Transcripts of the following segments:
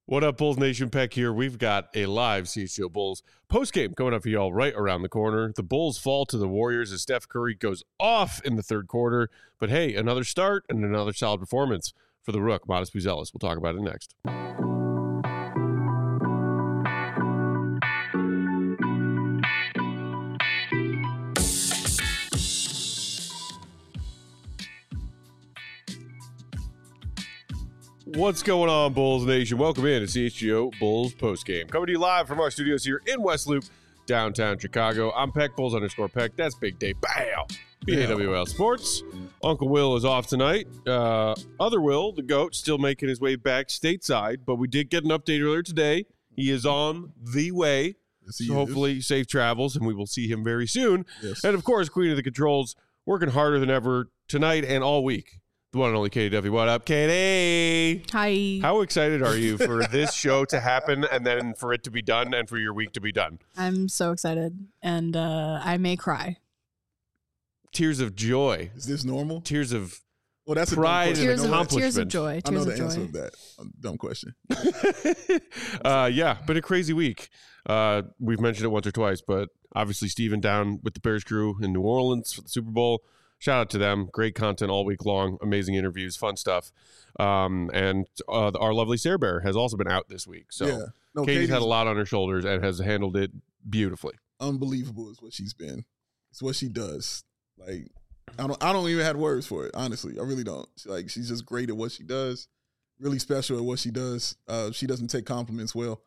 What up, Bulls Nation? Peck here. We've got a live CHGO Bulls postgame coming up for y'all right around the corner. The Bulls fall to the Warriors as Steph Curry goes off in the third quarter. But hey, another start and another solid performance for the Rook, Modest Buzelis. We'll talk about it next. What's going on, Bulls Nation? Welcome in to CHGO Bulls postgame. Coming to you live from our studios here in West Loop, downtown Chicago. I'm Peck, Bulls_Peck. That's Big Day. Bow! BAWL Sports. Uncle Will is off tonight. Other Will, the GOAT, still making his way back stateside, but we did get an update earlier today. He is on the way. Yes, so hopefully safe travels, and we will see him very soon. Yes. And, of course, Queen of the Controls, working harder than ever tonight and all week. The one and only Katie Duffy. What up, Katie? Hi. How excited are you for this show to happen and then for it to be done and for your week to be done? I'm so excited, and I may cry. Tears of joy. Is this normal? Tears of that's pride and accomplishment. Tears of joy. I know the answer of that. Dumb question. Yeah, been a crazy week. We've mentioned it once or twice, but obviously Steven down with the Bears crew in New Orleans for the Super Bowl. Shout out to them. Great content all week long. Amazing interviews, fun stuff. And our lovely Sarah Bear has also been out this week. So Katie's had a lot on her shoulders and has handled it beautifully. Unbelievable is what she's been. It's what she does. Like, I don't even have words for it, honestly. I really don't. She's just great at what she does. Really special at what she does. She doesn't take compliments well.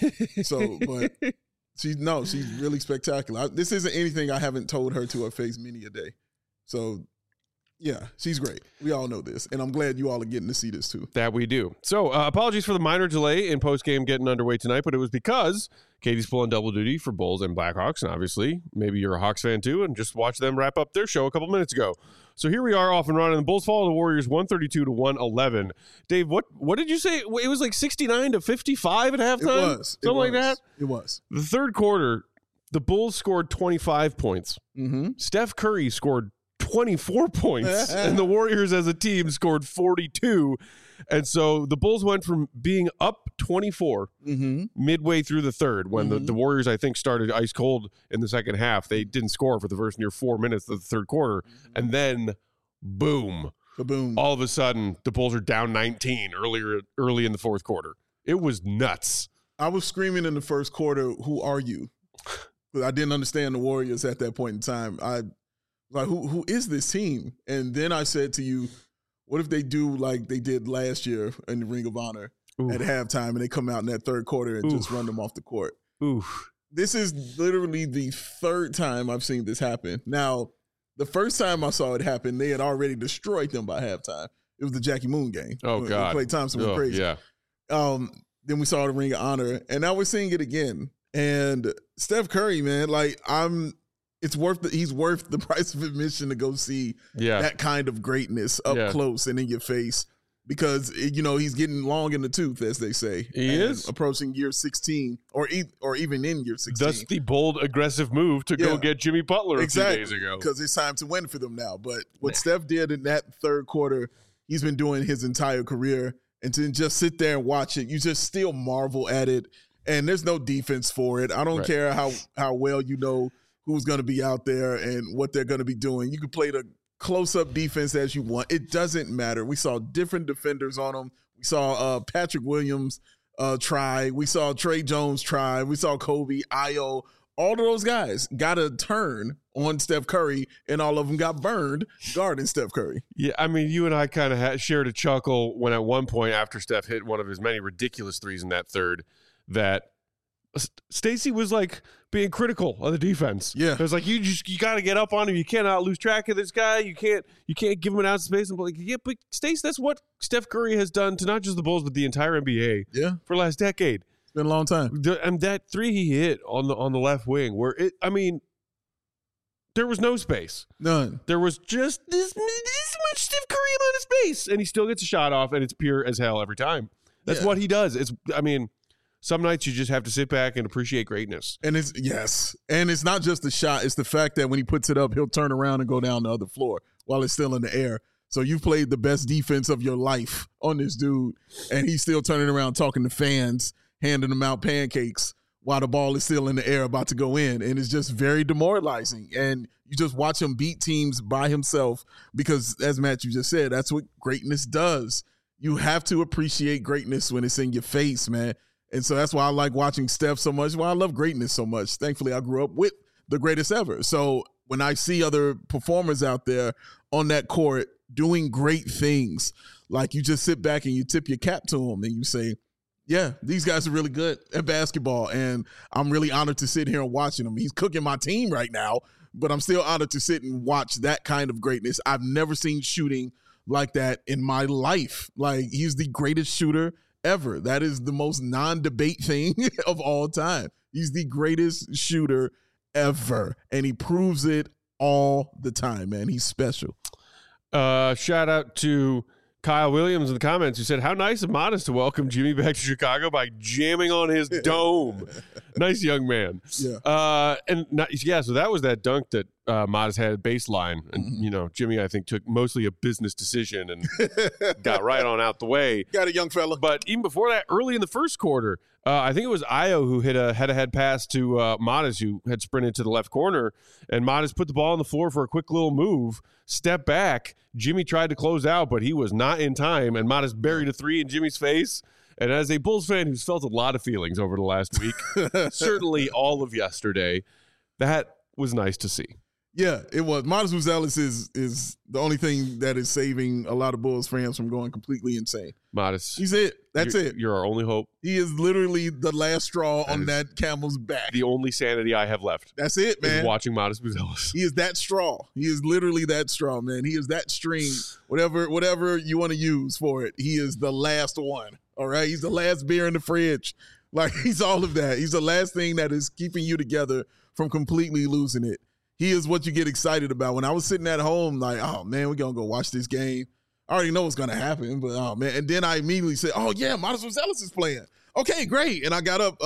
But she's really spectacular. This isn't anything I haven't told her to her face many a day. So, yeah, she's great. We all know this, and I'm glad you all are getting to see this too. That we do. So, apologies for the minor delay in postgame getting underway tonight, but it was because Katie's pulling double duty for Bulls and Blackhawks, and obviously, maybe you're a Hawks fan too, and just watched them wrap up their show a couple minutes ago. So here we are off and running. The Bulls fall to the Warriors 132-111. Dave, what did you say? It was like 69-55 at halftime? It was. Something like that? It was. The third quarter, the Bulls scored 25 points. Mm-hmm. Steph Curry scored 24 points, and the Warriors as a team scored 42. And so the Bulls went from being up 24 midway through the third when the Warriors, I think, started ice cold in the second half. They didn't score for the first near 4 minutes of the third quarter. And then, boom. Kaboom. All of a sudden, the Bulls are down 19 early in the fourth quarter. It was nuts. I was screaming in the first quarter, "Who are you?" But I didn't understand the Warriors at that point in time. Like, who is this team? And then I said to you, what if they do like they did last year in the Ring of Honor at halftime and they come out in that third quarter and just run them off the court? This is literally the third time I've seen this happen. Now, the first time I saw it happen, they had already destroyed them by halftime. It was the Jackie Moon game. Oh, God. Klay Thompson went crazy. Yeah. Then we saw the Ring of Honor, and now we're seeing it again. And Steph Curry, man, he's worth the price of admission to go see that kind of greatness up close and in your face because, he's getting long in the tooth, as they say. He is. Approaching year 16 or even in year 16. That's the bold, aggressive move to go get Jimmy Butler a few days ago. Because it's time to win for them now. But what Steph did in that third quarter, he's been doing his entire career. And to just sit there and watch it, you just still marvel at it. And there's no defense for it. I don't care how well you know who's going to be out there and what they're going to be doing. You can play the close-up defense as you want. It doesn't matter. We saw different defenders on them. We saw Patrick Williams try. We saw Trey Jones try. We saw Kobe, Ayo. All of those guys got a turn on Steph Curry, and all of them got burned guarding Steph Curry. Yeah, I mean, you and I kind of shared a chuckle when at one point after Steph hit one of his many ridiculous threes in that third that Stacey was like being critical of the defense. Yeah, it was like you got to get up on him. You cannot lose track of this guy. You can't give him an ounce of space. And like, but Stacey, that's what Steph Curry has done to not just the Bulls but the entire NBA. Yeah, for the last decade. It's been a long time. And that three he hit on the left wing, where there was no space, none. There was just this much Steph Curry amount of space, and he still gets a shot off, and it's pure as hell every time. That's what he does. Some nights you just have to sit back and appreciate greatness. And it's not just the shot. It's the fact that when he puts it up, he'll turn around and go down the other floor while it's still in the air. So you've played the best defense of your life on this dude, and he's still turning around talking to fans, handing them out pancakes while the ball is still in the air about to go in. And it's just very demoralizing. And you just watch him beat teams by himself because, as Matt, you just said, that's what greatness does. You have to appreciate greatness when it's in your face, man. And so that's why I like watching Steph so much, why I love greatness so much. Thankfully, I grew up with the greatest ever. So when I see other performers out there on that court doing great things, like you just sit back and you tip your cap to them and you say, yeah, these guys are really good at basketball, and I'm really honored to sit here and watching them. He's cooking my team right now, but I'm still honored to sit and watch that kind of greatness. I've never seen shooting like that in my life. Like, he's the greatest shooter ever. That is the most non-debate thing of all time. He's the greatest shooter ever, and he proves it all the time, man. He's special. Shout out to Kyle Williams in the comments, who said, how nice of Modest to welcome Jimmy back to Chicago by jamming on his dome. Nice young man. Yeah. So that was that dunk that Modest had baseline. And, Jimmy, I think, took mostly a business decision and got right on out the way. Got a young fella. But even before that, early in the first quarter, I think it was Ayo who hit a head-to-head pass to Modest, who had sprinted to the left corner, and Modest put the ball on the floor for a quick little move, step back. Jimmy tried to close out, but he was not in time, and Modest buried a three in Jimmy's face. And as a Bulls fan who's felt a lot of feelings over the last week, certainly all of yesterday, that was nice to see. Yeah, it was. Modest Buzelis is the only thing that is saving a lot of Bulls fans from going completely insane. Modest. He's it. That's it. You're our only hope. He is literally the last straw on that camel's back. The only sanity I have left. That's it, man. Is watching Modest Buzelis. He is that straw. He is literally that straw, man. He is that string. Whatever you want to use for it. He is the last one. All right? He's the last beer in the fridge. Like, he's all of that. He's the last thing that is keeping you together from completely losing it. He is what you get excited about. When I was sitting at home, like, oh, man, we're going to go watch this game. I already know what's going to happen, but, oh, man. And then I immediately said, oh, yeah, Modest Buzelis is playing. Okay, great. And I got up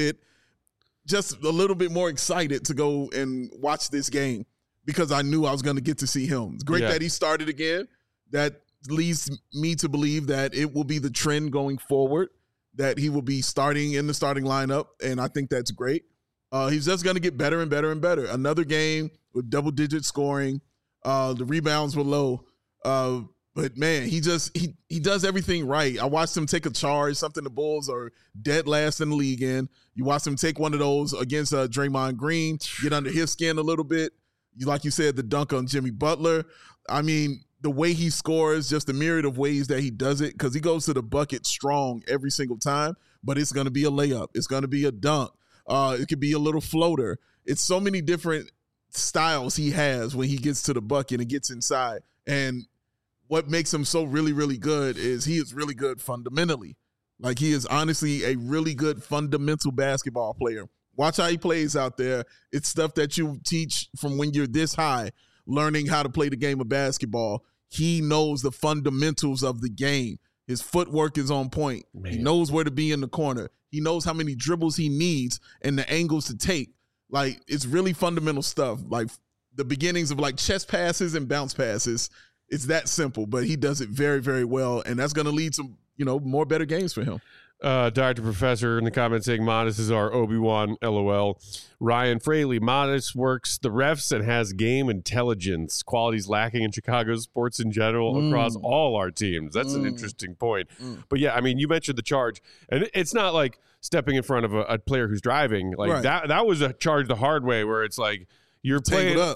just a little bit more excited to go and watch this game because I knew I was going to get to see him. It's great that he started again. That leads me to believe that it will be the trend going forward, that he will be starting in the starting lineup, and I think that's great. He's just going to get better and better and better. Another game with double-digit scoring. The rebounds were low. But, man, he does everything right. I watched him take a charge, something the Bulls are dead last in the league in. You watched him take one of those against Draymond Green, get under his skin a little bit. Like you said, the dunk on Jimmy Butler. I mean, the way he scores, just a myriad of ways that he does it, because he goes to the bucket strong every single time, but it's going to be a layup. It's going to be a dunk. It could be a little floater. It's so many different styles he has when he gets to the bucket and gets inside. And what makes him so really, really good is he is really good fundamentally. Like, he is honestly a really good fundamental basketball player. Watch how he plays out there. It's stuff that you teach from when you're this high, learning how to play the game of basketball. He knows the fundamentals of the game. His footwork is on point. Man. He knows where to be in the corner. He knows how many dribbles he needs and the angles to take. Like, it's really fundamental stuff. Like, the beginnings of, like, chest passes and bounce passes. It's that simple, but he does it very, very well, and that's going to lead to, more better games for him. Dr. Professor in the comments saying Modest is our Obi-Wan, LOL. Ryan Fraley, Modest works the refs and has game intelligence. Qualities lacking in Chicago sports in general across all our teams. That's an interesting point. But, yeah, I mean, you mentioned the charge, and it's not like stepping in front of a player who's driving. Like, that was a charge the hard way where it's like you're playing up.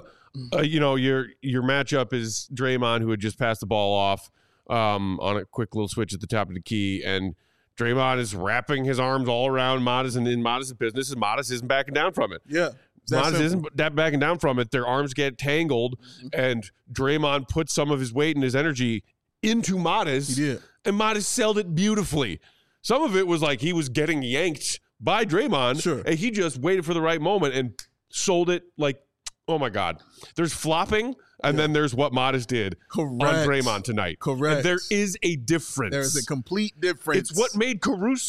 Your matchup is Draymond, who had just passed the ball off on a quick little switch at the top of the key, and Draymond is wrapping his arms all around Modest, and in Modest's business, and Modest isn't backing down from it. Yeah. Modest isn't backing down from it. Their arms get tangled, and Draymond puts some of his weight and his energy into Modest, he did. And Modest sold it beautifully. Some of it was like he was getting yanked by Draymond, sure. And he just waited for the right moment and sold it like oh my God, there's flopping, and then there's what Modest did on Draymond tonight. Correct. And there is a difference. There's a complete difference. It's what makes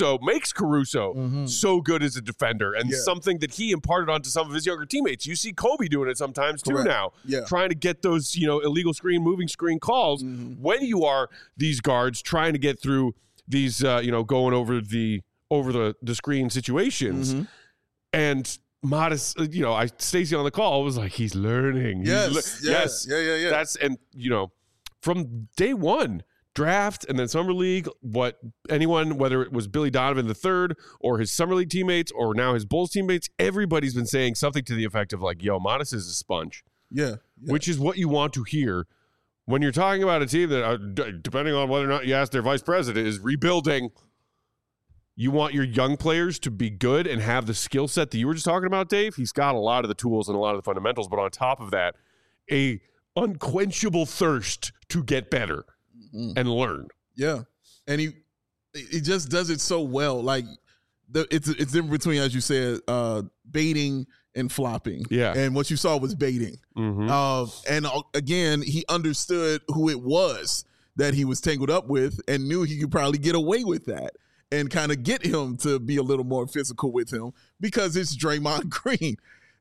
Caruso so good as a defender, and something that he imparted onto some of his younger teammates. You see Kobe doing it sometimes too now, trying to get those illegal moving screen calls when you are these guards trying to get through these going over the screen situations, and Modest, Stacey on the call was like, he's learning. Yes. That's, and from day one, draft and then summer league, whether it was Billy Donovan III or his summer league teammates or now his Bulls teammates, everybody's been saying something to the effect of like, yo, Modest is a sponge. Yeah. Which is what you want to hear when you're talking about a team that, depending on whether or not you ask their vice president, is rebuilding. You want your young players to be good and have the skill set that you were just talking about, Dave. He's got a lot of the tools and a lot of the fundamentals, but on top of that, a unquenchable thirst to get better and learn. Yeah, and he just does it so well. Like it's in between, as you said, baiting and flopping. Yeah, and what you saw was baiting. And again, he understood who it was that he was tangled up with and knew he could probably get away with that. And kind of get him to be a little more physical with him because it's Draymond Green.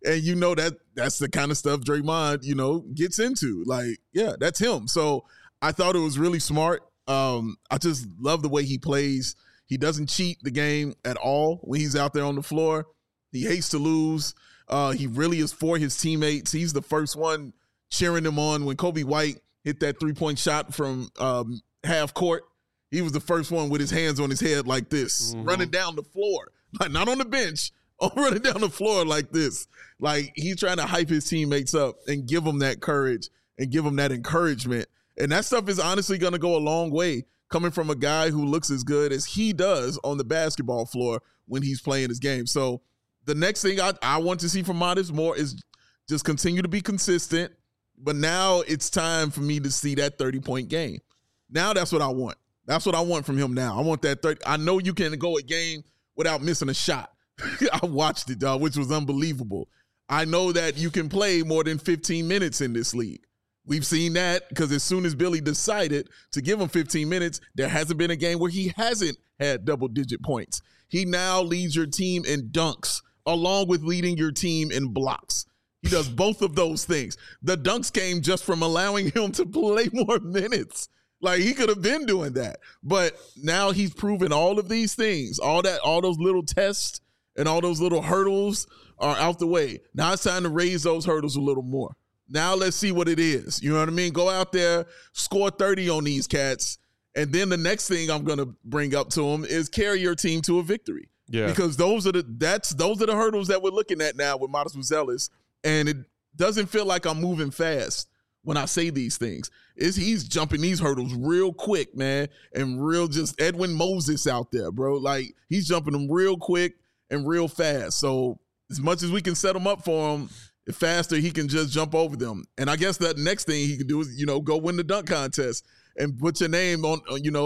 And that's the kind of stuff Draymond, gets into. Like, yeah, that's him. So I thought it was really smart. I just love the way he plays. He doesn't cheat the game at all when he's out there on the floor. He hates to lose. He really is for his teammates. He's the first one cheering them on when Kobe White hit that 3-point shot from half court. He was the first one with his hands on his head like this, running down the floor. Like, not on the bench, running down the floor like this. Like, he's trying to hype his teammates up and give them that courage and give them that encouragement. And that stuff is honestly going to go a long way coming from a guy who looks as good as he does on the basketball floor when he's playing his game. So the next thing I want to see from Modest more is just continue to be consistent. But now it's time for me to see that 30-point game. Now that's what I want. That's what I want from him now. I want that 30. I know you can go a game without missing a shot. I watched it, which was unbelievable. I know that you can play more than 15 minutes in this league. We've seen that because as soon as Billy decided to give him 15 minutes, there hasn't been a game where he hasn't had double-digit points. He now leads your team in dunks along with leading your team in blocks. He does both of those things. The dunks came just from allowing him to play more minutes. Like, he could have been doing that. But now he's proven all of these things, all those little tests and all those little hurdles are out the way. Now it's time to raise those hurdles a little more. Now let's see what it is. You know what I mean? Go out there, score 30 on these cats. And then the next thing I'm going to bring up to him is carry your team to a victory. Yeah. Because those are the hurdles that we're looking at now with Modest Buzelis. And it doesn't feel like I'm moving fast when I say these things. He's jumping these hurdles real quick, man, and real just Edwin Moses out there, bro. Like, he's jumping them real quick and real fast. So as much as we can set him up for him, the faster he can just jump over them. And I guess that next thing he can do is, go win the dunk contest and put your name on,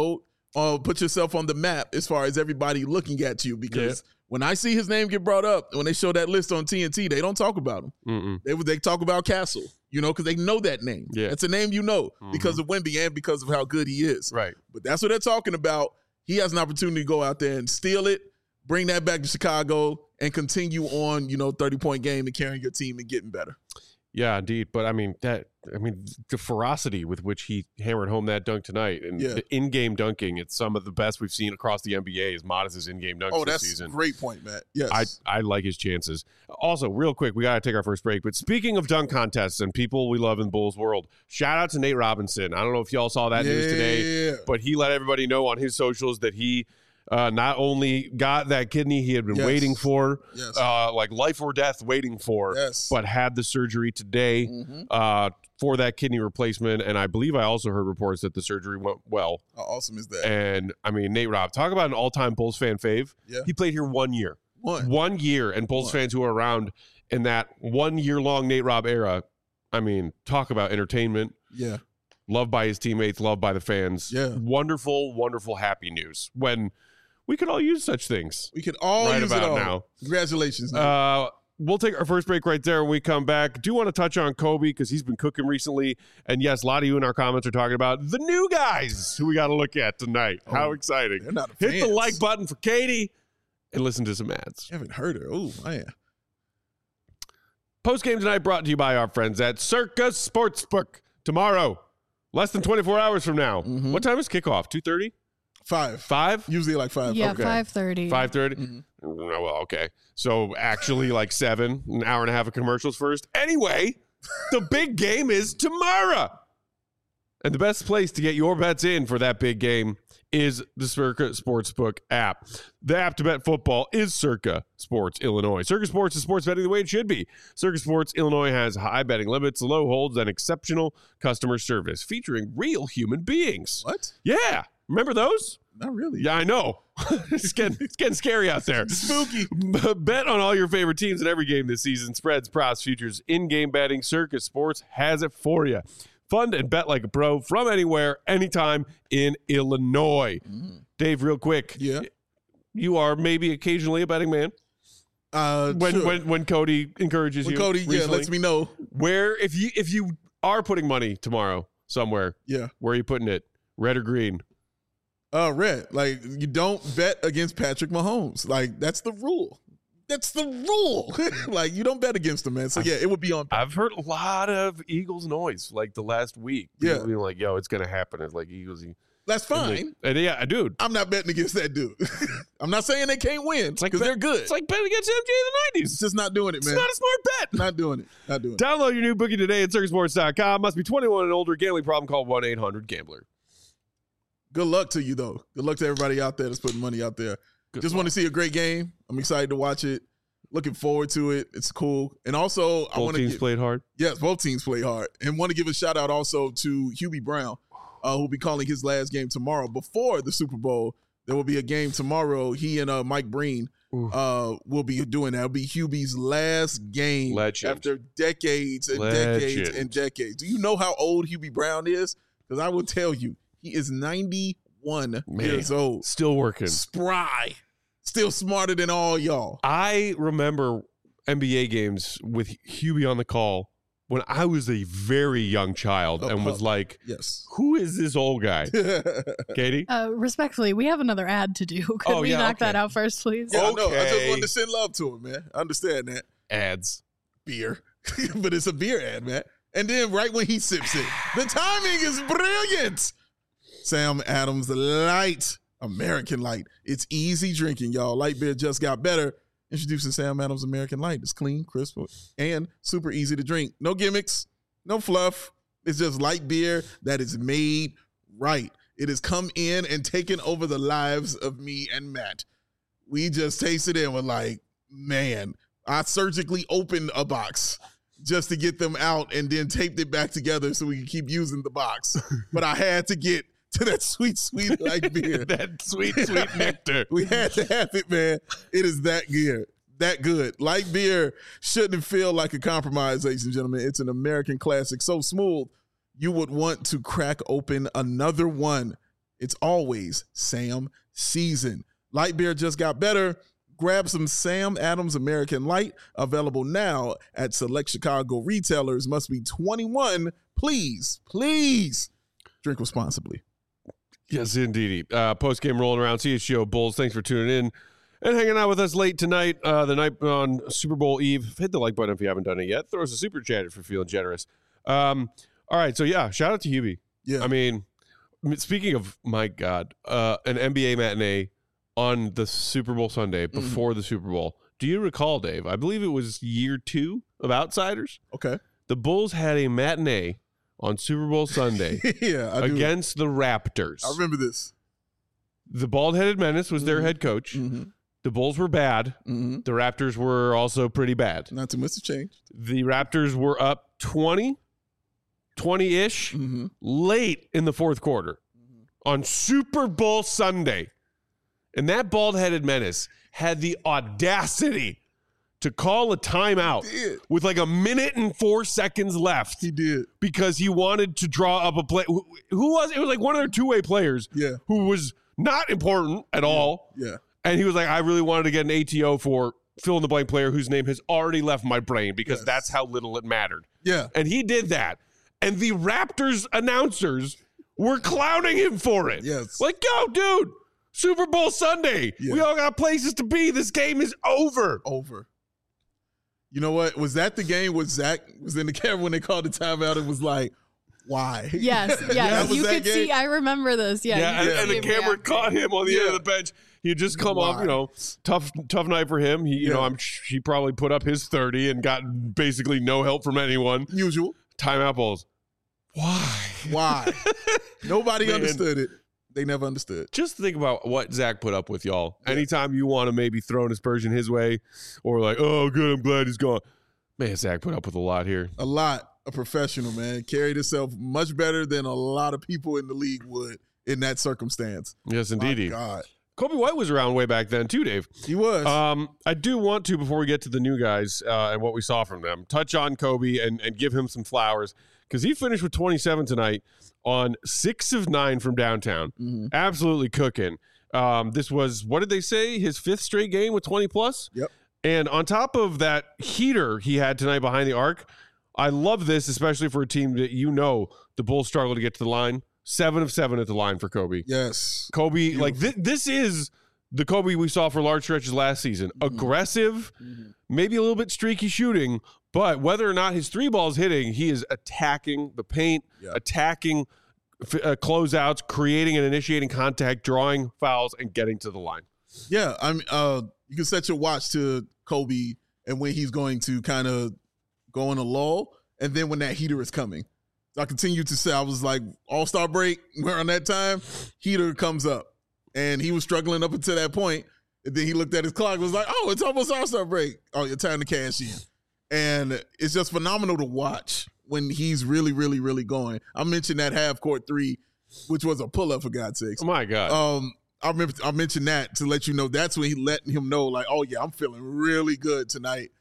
put yourself on the map as far as everybody looking at you. Because when I see his name get brought up, when they show that list on TNT, they don't talk about him. They talk about Castle. Because they know that name. Yeah. It's a name because of Wemby and because of how good he is. Right. But that's what they're talking about. He has an opportunity to go out there and steal it, bring that back to Chicago, and continue on, 30-point game and carrying your team and getting better. Yeah, indeed. But the ferocity with which he hammered home that dunk tonight and the in-game dunking, it's some of the best we've seen across the NBA is Modest's in-game dunks this season. Oh, that's a great point, Matt. Yes. I like his chances. Also, real quick, we got to take our first break. But speaking of dunk contests and people we love in Bulls world, shout out to Nate Robinson. I don't know if y'all saw that news today, but he let everybody know on his socials that he not only got that kidney he had been waiting for, like life or death waiting for, but had the surgery today for that kidney replacement. And I believe I also heard reports that the surgery went well. How awesome is that? And Nate Rob, talk about an all-time Bulls fan fave. Yeah. He played here 1 year. One year, and Bulls fans who are around in that 1 year long Nate Rob era, talk about entertainment. Yeah. Loved by his teammates, loved by the fans. Yeah. Wonderful, wonderful, happy news. When we could all use such things. We could all use it all. Now. Congratulations. we'll take our first break right there when we come back. Do want to touch on Kobe because he's been cooking recently. And yes, a lot of you in our comments are talking about the new guys who we got to look at tonight. How exciting. They're not Hit the like button for Katie and listen to some ads. I haven't heard her. Oh, man. Post game tonight brought to you by our friends at Circa Sportsbook. Tomorrow, less than 24 hours from now. Mm-hmm. What time is kickoff? 2:30? 5. 5? Usually like 5. Yeah, Okay. 5:30. 5:30? Mm-hmm. Well, okay. So actually like 7, an hour and a half of commercials first. Anyway, the big game is tomorrow. And the best place to get your bets in for that big game is the Circa Sportsbook app. The app to bet football is Circa Sports Illinois. Circa Sports is sports betting the way it should be. Circa Sports Illinois has high betting limits, low holds, and exceptional customer service featuring real human beings. What? Yeah. Remember those? Not really. Yeah, I know. It's getting scary out there. Spooky. Bet on all your favorite teams in every game this season. Spreads, props, futures, in-game betting. Circa Sports has it for you. Fund and bet like a pro from anywhere, anytime in Illinois. Dave, real quick. Yeah. You are maybe occasionally a betting man. When Cody encourages When you. Cody, recently. lets me know. Where if you are putting money tomorrow somewhere, Yeah. where are you putting it? Red or green? Red. Like, you don't bet against Patrick Mahomes. Like, that's the rule. That's the rule. Like, you don't bet against him, man. So, yeah, it would be on. I've heard a lot of Eagles noise like the last week. Yeah. People being like, yo, it's going to happen. It's like Eagles. That's fine. And yeah, dude. I'm not betting against that dude. I'm not saying they can't win because they're good. It's like betting against MJ in the 90s. It's just not doing it, man. It's not a smart bet. Not doing it. Not doing it. Download your new bookie today at circusports.com. Must be 21 and older. Gambling problem, call 1-800-GAMBLER. Good luck to you, though. Good luck to everybody out there that's putting money out there. Just want to see a great game. I'm excited to watch it. Looking forward to it. It's cool. And also, I want to teams played hard. Yes, both teams played hard. And want to give a shout out also to Hubie Brown, who'll be calling his last game tomorrow. Before the Super Bowl, there will be a game tomorrow. He and Mike Breen will be doing that. It'll be Hubie's last game after decades and decades and decades. Do you know how old Hubie Brown is? Because I will tell you, he is 91 years old. Still working. Spry. Still smarter than all y'all. I remember NBA games with Hubie on the call when I was a very young child and was like, yes, who is this old guy? Katie? Respectfully, we have another ad to do. Could we knock that out first, please? Yeah, no, I just wanted to send love to him, man. I understand that. Ads. Beer. But it's a beer ad, man. And then right when he sips it, the timing is brilliant. Sam Adams Light, American Light. It's easy drinking, y'all. Light beer just got better. Introducing Sam Adams American Light. It's clean, crisp, and super easy to drink. No gimmicks, no fluff. It's just light beer that is made right. It has come in and taken over the lives of me and Matt. We just tasted it and were like, man, I surgically opened a box just to get them out and then taped it back together so we can keep using the box. But I had to get to that sweet, sweet light beer. That sweet, sweet nectar. We had to have it, man. It is that good. That good. Light beer shouldn't feel like a compromise, ladies and gentlemen. It's an American classic. So smooth, you would want to crack open another one. It's always Sam season. Light beer just got better. Grab some Sam Adams American Light, available now at select Chicago retailers. Must be 21. Please drink responsibly. Yes, indeed. Post-game rolling around. CHGO Bulls, thanks for tuning in and hanging out with us late tonight, the night on Super Bowl Eve. Hit the like button if you haven't done it yet. Throw us a super chat if you're feeling generous. All right, so yeah, shout out to Hubie. Yeah. I mean, speaking of, my God, an NBA matinee on the Super Bowl Sunday before the Super Bowl. Do you recall, Dave? I believe it was year 2 of Outsiders. Okay. The Bulls had a matinee on Super Bowl Sunday against the Raptors. I remember this. The bald-headed menace was their head coach. The Bulls were bad. The Raptors were also pretty bad. Not too much to change. The Raptors were up 20-ish late in the fourth quarter on Super Bowl Sunday. And that bald-headed menace had the audacity to call a timeout with like a minute and 4 seconds left. He did. Because he wanted to draw up a play. Who was it? It was like one of their two-way players who was not important at all. Yeah. And he was like, I really wanted to get an ATO for fill-in-the-blank player whose name has already left my brain because that's how little it mattered. Yeah. And he did that. And the Raptors announcers were clowning him for it. Yes. Like, go, dude. Super Bowl Sunday. Yeah. We all got places to be. This game is over. You know what? Was that the game where Zach was in the camera when they called the timeout and was like, why? Yes. You could see. I remember this. Yeah. And the camera caught him on the end of the bench. He had just come off, tough night for him. He, he probably put up his 30 and got basically no help from anyone. Usual. Timeout balls. Why? Nobody understood it. They never understood. Just think about what Zach put up with, y'all. Yeah. Anytime you want to maybe throw an aspersion his way or like, oh, good, I'm glad he's gone. Man, Zach put up with a lot here. A lot. A professional, man. Carried himself much better than a lot of people in the league would in that circumstance. Yes, indeed. My God. Coby White was around way back then too, Dave. He was. I do want to, before we get to the new guys and what we saw from them, touch on Coby and give him some flowers because he finished with 27 tonight on 6 of 9 from downtown. Mm-hmm. Absolutely cooking. This was, what did they say, his 5th straight game with 20 plus? Yep. And on top of that heater he had tonight behind the arc, I love this, especially for a team that the Bulls struggle to get to the line. 7 of 7 at the line for Coby. Yes. Coby, like this is the Coby we saw for large stretches last season. Mm-hmm. Aggressive, maybe a little bit streaky shooting, but whether or not his 3 ball is hitting, he is attacking the paint, attacking closeouts, creating and initiating contact, drawing fouls, and getting to the line. Yeah, you can set your watch to Coby and when he's going to kind of go on a lull, and then when that heater is coming. So I continue to say, I was like, All-Star break, around that time, heater comes up. And he was struggling up until that point. And then he looked at his clock and was like, oh, it's almost All-Star break. Oh, your time to cash in. And it's just phenomenal to watch when he's really, really, really going. I mentioned that half-court 3, which was a pull-up, for God's sakes. Oh, my God. I mentioned that to let you know that's when he let him know, like, oh, yeah, I'm feeling really good tonight.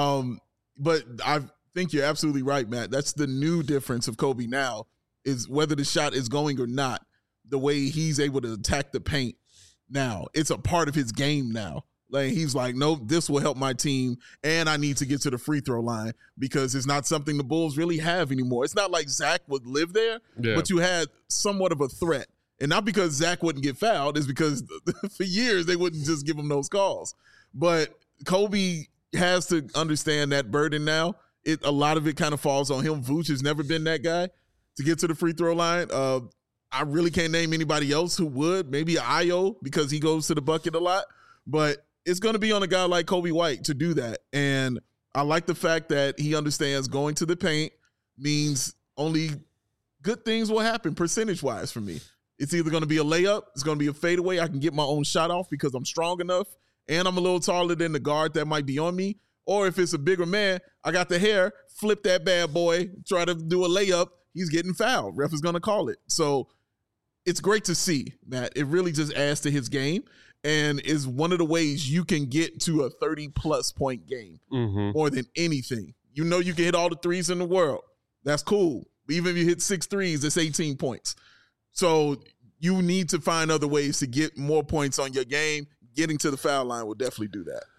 But I think you're absolutely right, Matt. That's the new difference of Coby now is whether the shot is going or not, the way he's able to attack the paint now. It's a part of his game now. Like he's like, no, this will help my team, and I need to get to the free throw line because it's not something the Bulls really have anymore. It's not like Zach would live there, but you had somewhat of a threat. And not because Zach wouldn't get fouled, it's because for years they wouldn't just give him those calls. But Coby has to understand that burden now. A lot of it kind of falls on him. Vooch has never been that guy to get to the free throw line. I really can't name anybody else who would. Maybe Ayo because he goes to the bucket a lot. But it's going to be on a guy like Coby White to do that. And I like the fact that he understands going to the paint means only good things will happen percentage-wise for me. It's either going to be a layup, it's going to be a fadeaway. I can get my own shot off because I'm strong enough and I'm a little taller than the guard that might be on me. Or if it's a bigger man, I got the hair, flip that bad boy, try to do a layup, he's getting fouled. Ref is going to call it. So it's great to see, Matt. It really just adds to his game and is one of the ways you can get to a 30-plus point game more than anything. You know you can hit all the threes in the world. That's cool. Even if you hit 6 threes, it's 18 points. So you need to find other ways to get more points on your game. Getting to the foul line will definitely do that.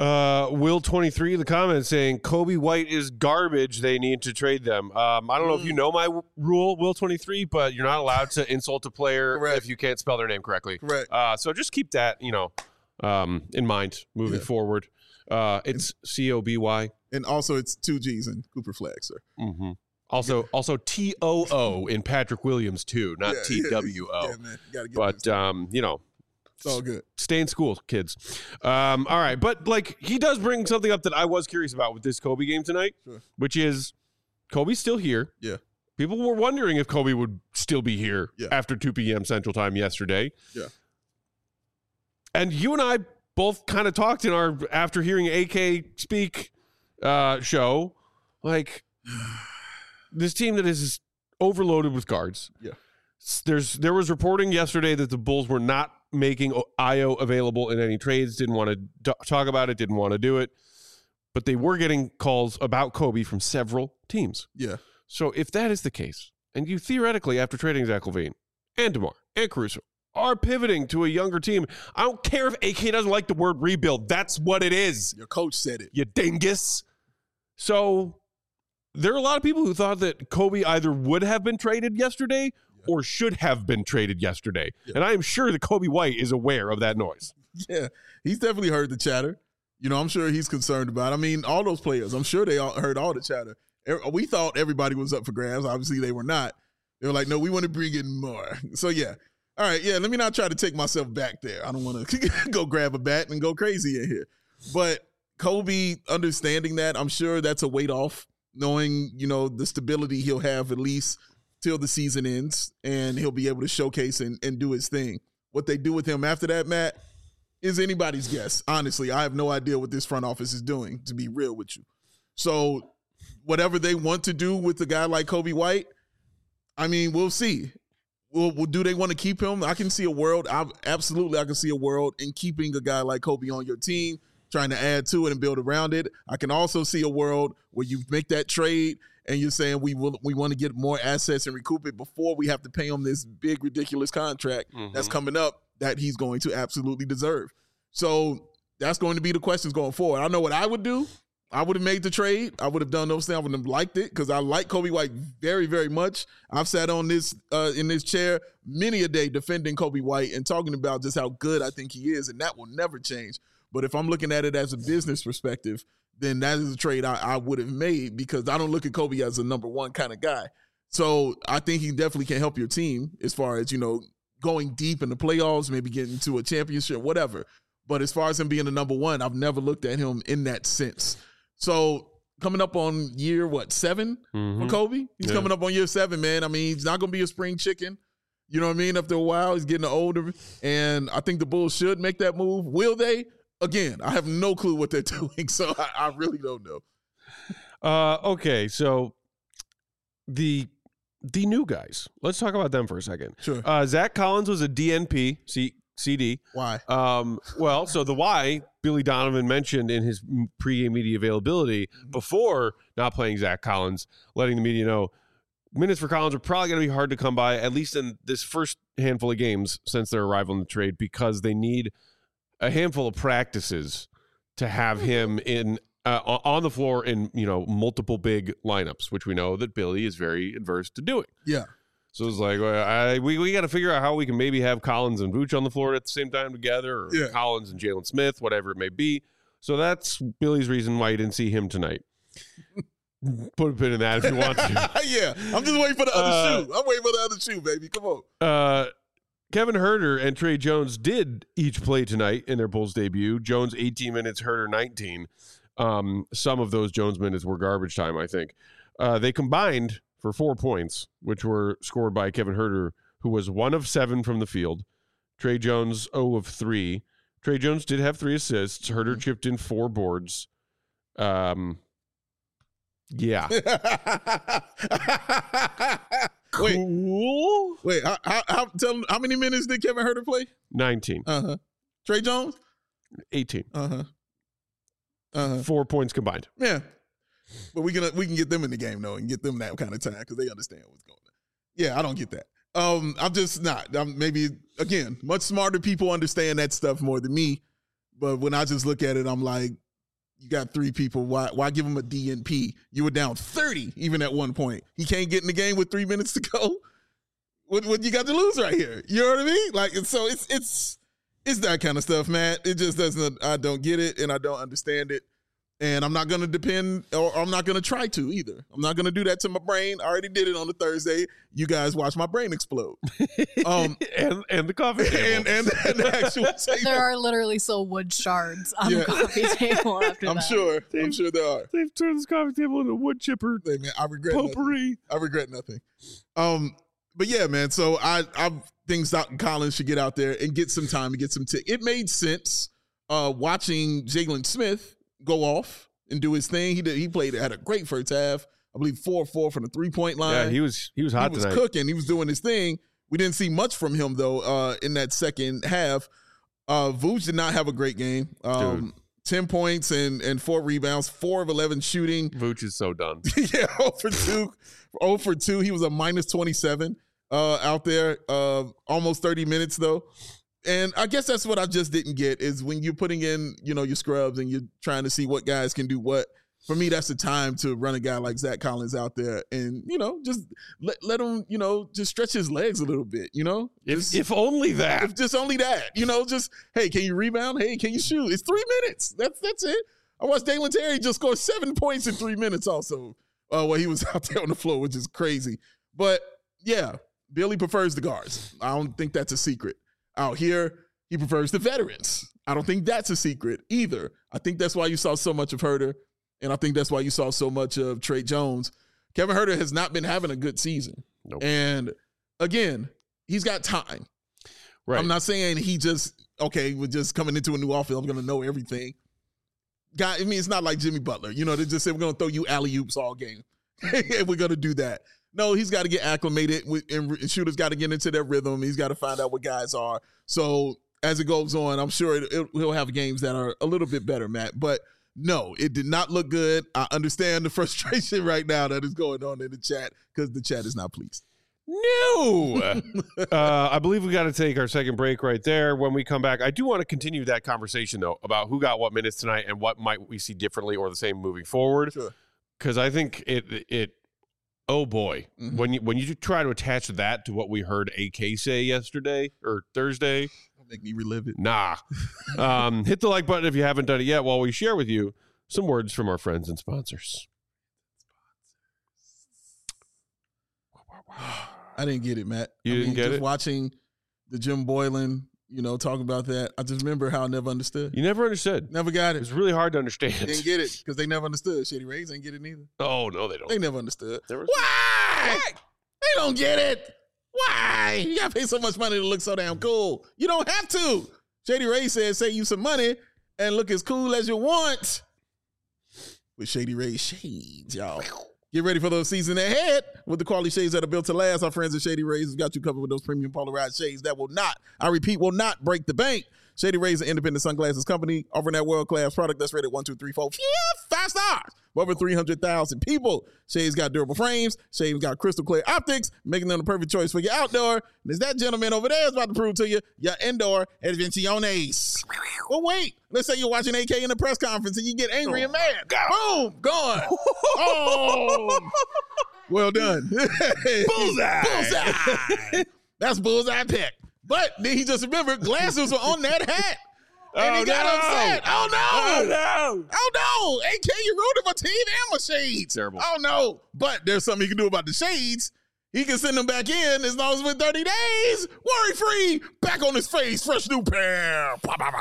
Will23 in the comments saying Coby White is garbage. They need to trade them. I don't know if you know my rule, Will23, but you're not allowed to insult a player if you can't spell their name correctly. Correct. So just keep that, in mind moving forward. It's Coby. And also it's 2 G's in Cooper Flag, sir. Mm-hmm. Also TOO in Patrick Williams too, not TWO. Yeah, man. You gotta get But it's all good. Stay in school, kids. All right. But, he does bring something up that I was curious about with this Coby game tonight, which is Coby's still here. Yeah. People were wondering if Coby would still be here after 2 p.m. Central Time yesterday. Yeah. And you and I both kind of talked in our after hearing AK speak show, this team that is overloaded with guards. Yeah. There was reporting yesterday that the Bulls were not making Ayo available in any trades, didn't want to talk about it, didn't want to do it. But they were getting calls about Coby from several teams. Yeah. So if that is the case, and you theoretically, after trading Zach LaVine and DeMar and Caruso, are pivoting to a younger team. I don't care if AK doesn't like the word rebuild. That's what it is. Your coach said it. You dingus. So there are a lot of people who thought that Kobe either would have been traded yesterday or should have been traded yesterday. Yeah. And I am sure that Kobe White is aware of that noise. Yeah, he's definitely heard the chatter. You know, I'm sure he's concerned about it. I mean, all those players, I'm sure they all heard all the chatter. We thought everybody was up for grabs. Obviously, they were not. They were like, no, we want to bring in more. So, yeah. All right, yeah, let me not try to take myself back there. I don't want to go grab a bat and go crazy in here. But Kobe understanding that, I'm sure that's a weight off, knowing, you know, the stability he'll have at least till the season ends, and he'll be able to showcase and do his thing. What they do with him after that, Matt, is anybody's guess. Honestly, I have no idea what this front office is doing, to be real with you. So whatever they want to do with a guy like Kobe White, I mean, we'll see. Well, do they want to keep him? I can see a world. I can see a world in keeping a guy like Kobe on your team, trying to add to it and build around it. I can also see a world where you make that trade and you're saying we want to get more assets and recoup it before we have to pay him this big, ridiculous contract that's coming up that he's going to absolutely deserve. So that's going to be the questions going forward. I know what I would do. I would have made the trade. I would have done those things. I would have liked it because I like Kobe White very, very much. I've sat on this in this chair many a day defending Kobe White and talking about just how good I think he is, and that will never change. But if I'm looking at it as a business perspective, then that is a trade I would have made because I don't look at Kobe as a number one kind of guy. So I think he definitely can help your team as far as, you know, going deep in the playoffs, maybe getting to a championship, whatever. But as far as him being the number one, I've never looked at him in that sense. So coming up on year, 7 for Kobe? He's coming up on year 7, man. I mean, he's not going to be a spring chicken. You know what I mean? After a while, he's getting older. And I think the Bulls should make that move. Will they? Again, I have no clue what they're doing, so I really don't know. Okay, so the new guys. Let's talk about them for a second. Sure. Zach Collins was a DNP. CD. Why? Well, so the why Billy Donovan mentioned in his pregame media availability before not playing Zach Collins, letting the media know minutes for Collins are probably going to be hard to come by, at least in this first handful of games since their arrival in the trade, because they need a handful of practices to have him in on the floor in, you know, multiple big lineups, which we know that Billy is very adverse to doing. Yeah. So it's like, we got to figure out how we can maybe have Collins and Vooch on the floor at the same time together, or Collins and Jalen Smith, whatever it may be. So that's Billy's reason why you didn't see him tonight. Put a pin in that if you want to. Yeah, I'm just waiting for the other shoe. I'm waiting for the other shoe, baby. Come on. Kevin Huerter and Trey Jones did each play tonight in their Bulls debut. Jones 18 minutes, Huerter 19. Some of those Jones minutes were garbage time, I think. They combined for 4 points, which were scored by Kevin Huerter, who was 1 of 7 from the field. Trey Jones, 0 of 3. Trey Jones did have 3 assists. Huerter chipped in 4 boards. Yeah. Cool. Wait, how many minutes did Kevin Huerter play? 19. Trey Jones? 18. 4 points combined. Yeah. But we can get them in the game, though, and get them that kind of time because they understand what's going on. Yeah, I don't get that. I'm just not. Maybe, again, much smarter people understand that stuff more than me. But when I just look at it, I'm like, you got 3 people. Why give them a DNP? You were down 30 even at one point. He can't get in the game with 3 minutes to go. What you got to lose right here? You know what I mean? Like, so it's that kind of stuff, man. It just doesn't. I don't get it, and I don't understand it. And I'm not going to depend, or I'm not going to try to either. I'm not going to do that to my brain. I already did it on the Thursday. You guys watch my brain explode. And the coffee table. And the actual table. There are literally still wood shards on the coffee table after I'm sure there are. They've turned this coffee table into a wood chipper. Hey, man, I regret potpourri. Nothing. I regret nothing. But yeah, man, so I think Stockton Collins should get out there and get some time and get some tick. It made sense watching Jalen Smith go off and do his thing. He had a great first half. I believe 4-4 from the 3-point line. Yeah, he was hot tonight. He was cooking. He was doing his thing. We didn't see much from him though in that second half. Vooch did not have a great game. 10 points and 4 rebounds, 4 of 11 shooting. Vooch is so done. Yeah, 0 for 2. 0 for 2. He was a minus 27. out there. Almost 30 minutes though. And I guess that's what I just didn't get is when you're putting in, your scrubs and you're trying to see what guys can do what. For me, that's the time to run a guy like Zach Collins out there and, just let him, just stretch his legs a little bit, If only that. If just only that, just, hey, can you rebound? Hey, can you shoot? It's 3 minutes. That's it. I watched Dalen Terry just score 7 points in 3 minutes also while he was out there on the floor, which is crazy. But, yeah, Billy prefers the guards. I don't think that's a secret. Out here, he prefers the veterans. I don't think that's a secret either. I think that's why you saw so much of Huerter, and I think that's why you saw so much of Trey Jones. Kevin Huerter has not been having a good season. Nope. And, again, he's got time. Right. I'm not saying he we're just coming into a new offense, I'm going to know everything. It's not like Jimmy Butler. They just say we're going to throw you alley-oops all game. And we're going to do that. No, he's got to get acclimated, and shooters got to get into their rhythm. He's got to find out what guys are. So as it goes on, I'm sure he'll have games that are a little bit better, Matt. But no, it did not look good. I understand the frustration right now that is going on in the chat because the chat is not pleased. No. I believe we got to take our second break right there. When we come back, I do want to continue that conversation, though, about who got what minutes tonight and what might we see differently or the same moving forward. Sure. Because I think it oh boy, when you try to attach that to what we heard AK say yesterday or Thursday, don't make me relive it. Nah. Hit the like button if you haven't done it yet while we share with you some words from our friends and sponsors. I didn't get it, Matt. You didn't get it? Watching the Jim Boylan, talking about that, I just remember how I never understood. You never understood. Never got It it. was really hard to understand. Didn't get it because they never understood. Shady Rays ain't get it neither. Oh, no, they don't. They never understood. There was- Why? They don't get it. Why? You got to pay so much money to look so damn cool. You don't have to. Shady Ray says, save you some money and look as cool as you want. With Shady Ray shades, y'all. Get ready for those seasons ahead with the quality shades that are built to last. Our friends at Shady Rays have got you covered with those premium polarized shades that will not, I repeat, will not break the bank. Shady Rays, an independent sunglasses company, offering that world-class product that's rated 1, 2, 3, 4, 5 stars. Over 300,000 people. Shades got durable frames. Shades got crystal clear optics, making them the perfect choice for your outdoor. And as that gentleman over there is about to prove to you, your indoor advenciones. Well, wait. Let's say you're watching AK in a press conference and you get angry and mad. Boom, gone. Oh, well done. Bullseye. Bullseye. That's bullseye pick. But then he just remembered glasses were on that hat. And he got upset. Oh, no. Oh, no. Oh, no. AK, you ruined my team and my shades. Terrible. Oh, no. But there's something he can do about the shades. He can send them back in as long as within 30 days. Worry-free. Back on his face. Fresh new pair.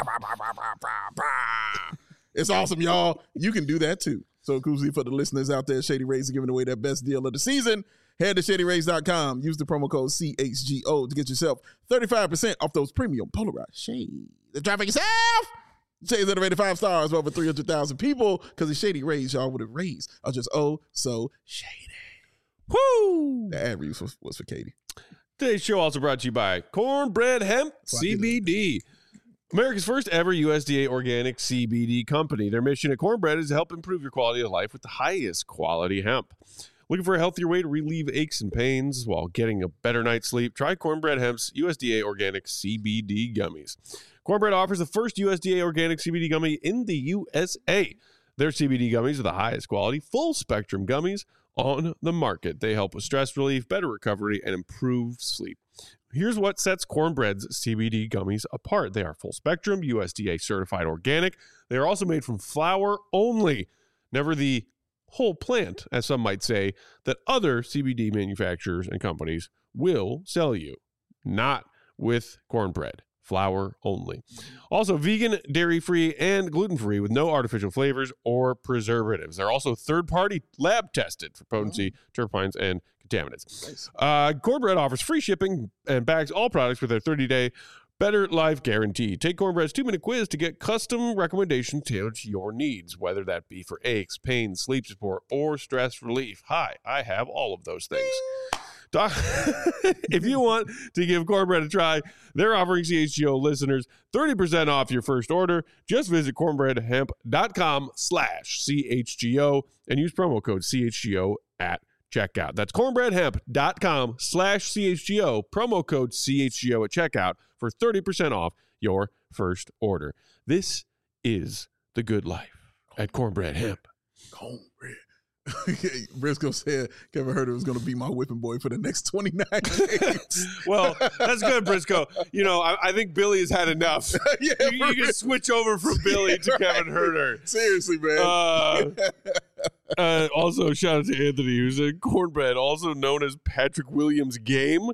It's awesome, y'all. You can do that, too. So, Koozie, for the listeners out there, Shady Rays are giving away their best deal of the season. Head to ShadyRays.com. Use the promo code CHGO to get yourself 35% off those premium polarized shades. The traffic yourself. Shades that are rated 5 stars for over 300,000 people because the Shady Rays, y'all, with a raise are just so shady. Woo! The ad read was for Katie. Today's show also brought to you by Cornbread Hemp CBD. America's first ever USDA organic CBD company. Their mission at Cornbread is to help improve your quality of life with the highest quality hemp. Looking for a healthier way to relieve aches and pains while getting a better night's sleep? Try Cornbread Hemp's USDA organic CBD gummies. Cornbread offers the first USDA organic CBD gummy in the USA. Their CBD gummies are the highest quality, full-spectrum gummies on the market. They help with stress relief, better recovery, and improved sleep. Here's what sets Cornbread's CBD gummies apart. They are full-spectrum, USDA certified organic. They are also made from flower only, never the whole plant, as some might say, that other CBD manufacturers and companies will sell you. Not with Cornbread. Flour only. Also vegan, dairy-free, and gluten-free with no artificial flavors or preservatives. They're also third-party lab tested for potency, terpenes, and contaminants. Nice. Cornbread offers free shipping and bags all products with their 30-day Better Life Guarantee. Take Cornbread's 2-minute quiz to get custom recommendations tailored to your needs, whether that be for aches, pains, sleep support, or stress relief. Hi, I have all of those things. If you want to give Cornbread a try, they're offering CHGO listeners 30% off your first order. Just visit cornbreadhemp.com/CHGO and use promo code CHGO at checkout. That's cornbreadhemp.com/CHGO, promo code CHGO at checkout for 30% off your first order. This is the good life at Cornbread Hemp. Cornbread. Briscoe said Kevin Huerter was going to be my whipping boy for the next 29 games. Well, that's good, Briscoe. You know, I think Billy has had enough. Yeah, you can switch over from Billy to Kevin Huerter. Seriously, man. Also, shout out to Anthony, who said cornbread, also known as Patrick Williams' game.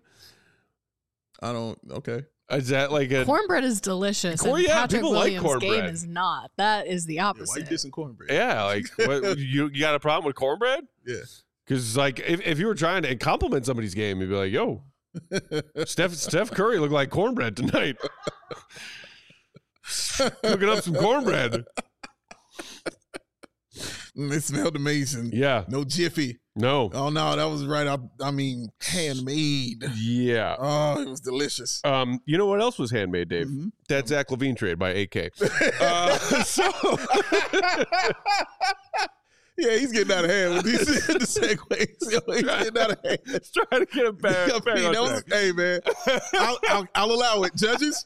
Okay. Is that like a cornbread is delicious? And yeah, Patrick people Williams' like cornbread. game is not. That is the Yeah, opposite. why you dissing cornbread? Yeah, like what, you got a problem with cornbread? Yeah. Because like if you were trying to compliment somebody's game, you'd be like, "Yo, Steph Curry looked like cornbread tonight, cooking up some cornbread." It smelled amazing. Yeah, No Jiffy. no, Oh no, that was right. I mean, handmade. yeah. Oh, it was delicious. You know what else was handmade, Dave? Mhm. That Zach LaVine trade by AK. So Yeah, he's getting out of hand with these the segues. Yo, he's getting out of hand. let's try to get him back. I mean, that was- hey man, I'll allow it. Judges,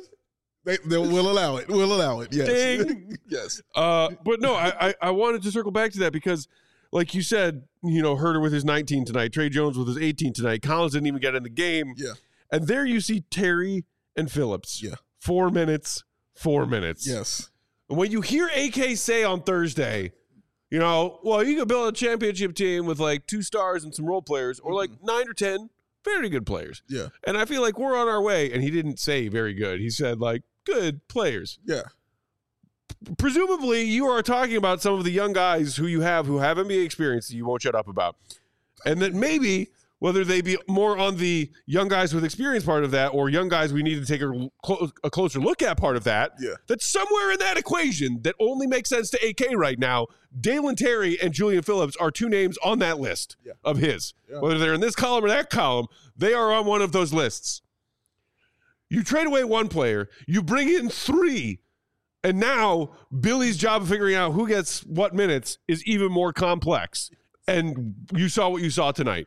we'll allow it. We'll allow it. Yes, Ding. yes. But no, I wanted to circle back to that because, like you said, you know, Huerter with his 19 tonight, Trey Jones with his 18 tonight. Collins didn't even get in the game. Yeah. And there you see Terry and Phillips. Yeah. 4 minutes, 4 minutes. Yes. And when you hear AK say on Thursday, you know, well, you could build a championship team with like 2 stars and some role players, or like 9 or 10 very good players. Yeah. And I feel like we're on our way. And he didn't say very good. He said like good players. Yeah. Presumably, you are talking about some of the young guys who have NBA experience that you won't shut up about. And that maybe, whether they be more on the young guys with experience part of that or young guys we need to take a closer look at part of that, Yeah. that somewhere in that equation that only makes sense to AK right now, Dalen Terry and Julian Phillips are 2 names on that list of his. Yeah. Whether they're in this column or that column, they are on one of those lists. You trade away 1 player, you bring in 3, and now Billy's job of figuring out who gets what minutes is even more complex. And you saw what you saw tonight.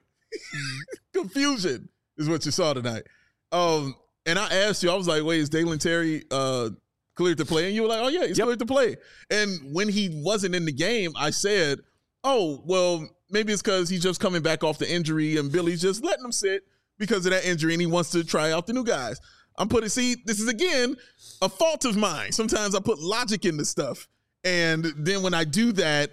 Confusion is what you saw tonight. And I asked you, I was like, wait, is Dalen Terry cleared to play? And you were like, oh yeah, he's cleared to play. And when he wasn't in the game, I said, oh, well, maybe it's because he's just coming back off the injury and Billy's just letting him sit because of that injury and he wants to try out the new guys. This is again a fault of mine. Sometimes I put logic into stuff. And then when I do that,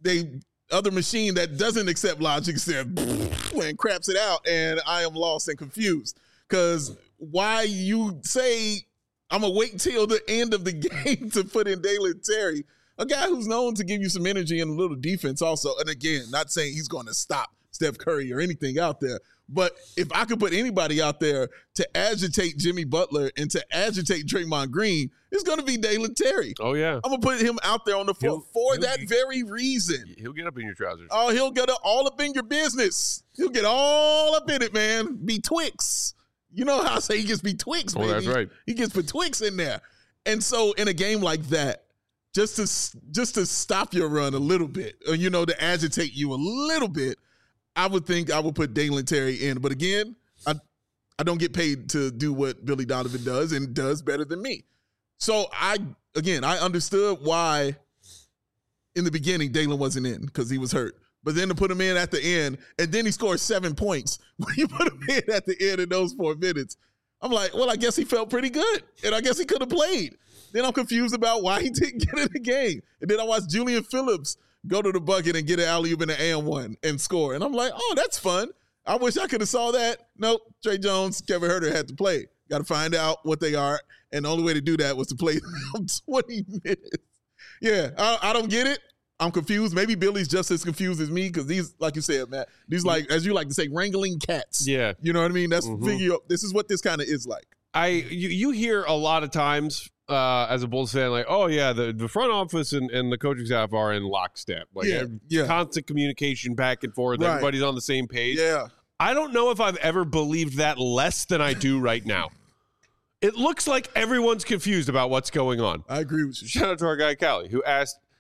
other machine that doesn't accept logic says and craps it out, and I am lost and confused. Because why you say I'm gonna wait till the end of the game to put in Dalen Terry, a guy who's known to give you some energy and a little defense also. And again, not saying he's going to stop Steph Curry or anything out there, but if I could put anybody out there to agitate Jimmy Butler and to agitate Draymond Green, it's going to be Dalen Terry. Oh, yeah. I'm going to put him out there on the floor for that very reason. He'll get up in your trousers. Oh, he'll get all up in your business. He'll get all up in it, man. Be Twix. You know how I say he gets betwixt, baby. Oh, that's right. He gets betwixt in there. And so in a game like that, just to stop your run a little bit, or, to agitate you a little bit, I would think I would put Dalen Terry in. But again, I don't get paid to do what Billy Donovan does and does better than me. So I understood why in the beginning Dalen wasn't in because he was hurt. But then to put him in at the end, and then he scored 7 points when you put him in at the end in those 4 minutes. I'm like, well, I guess he felt pretty good, and I guess he could have played. Then I'm confused about why he didn't get in the game. And then I watched Julian Phillips go to the bucket and get an alley-oop in the and one and score. And I'm like, oh, that's fun. I wish I could have saw that. Nope, Trey Jones, Kevin Huerter had to play. Got to find out what they are, and the only way to do that was to play them 20 minutes. Yeah, I don't get it. I'm confused. Maybe Billy's just as confused as me because these, like you said, Matt, these like, as you like to say, wrangling cats. Yeah. You know what I mean? That's this is what this kind of is like. You hear a lot of times as a Bulls fan, like, oh yeah, the front office and the coaching staff are in lockstep. Like constant communication back and forth. Right. Everybody's on the same page. Yeah. I don't know if I've ever believed that less than I do right now. It looks like everyone's confused about what's going on. I agree with you. Shout out to our guy Callie, who asked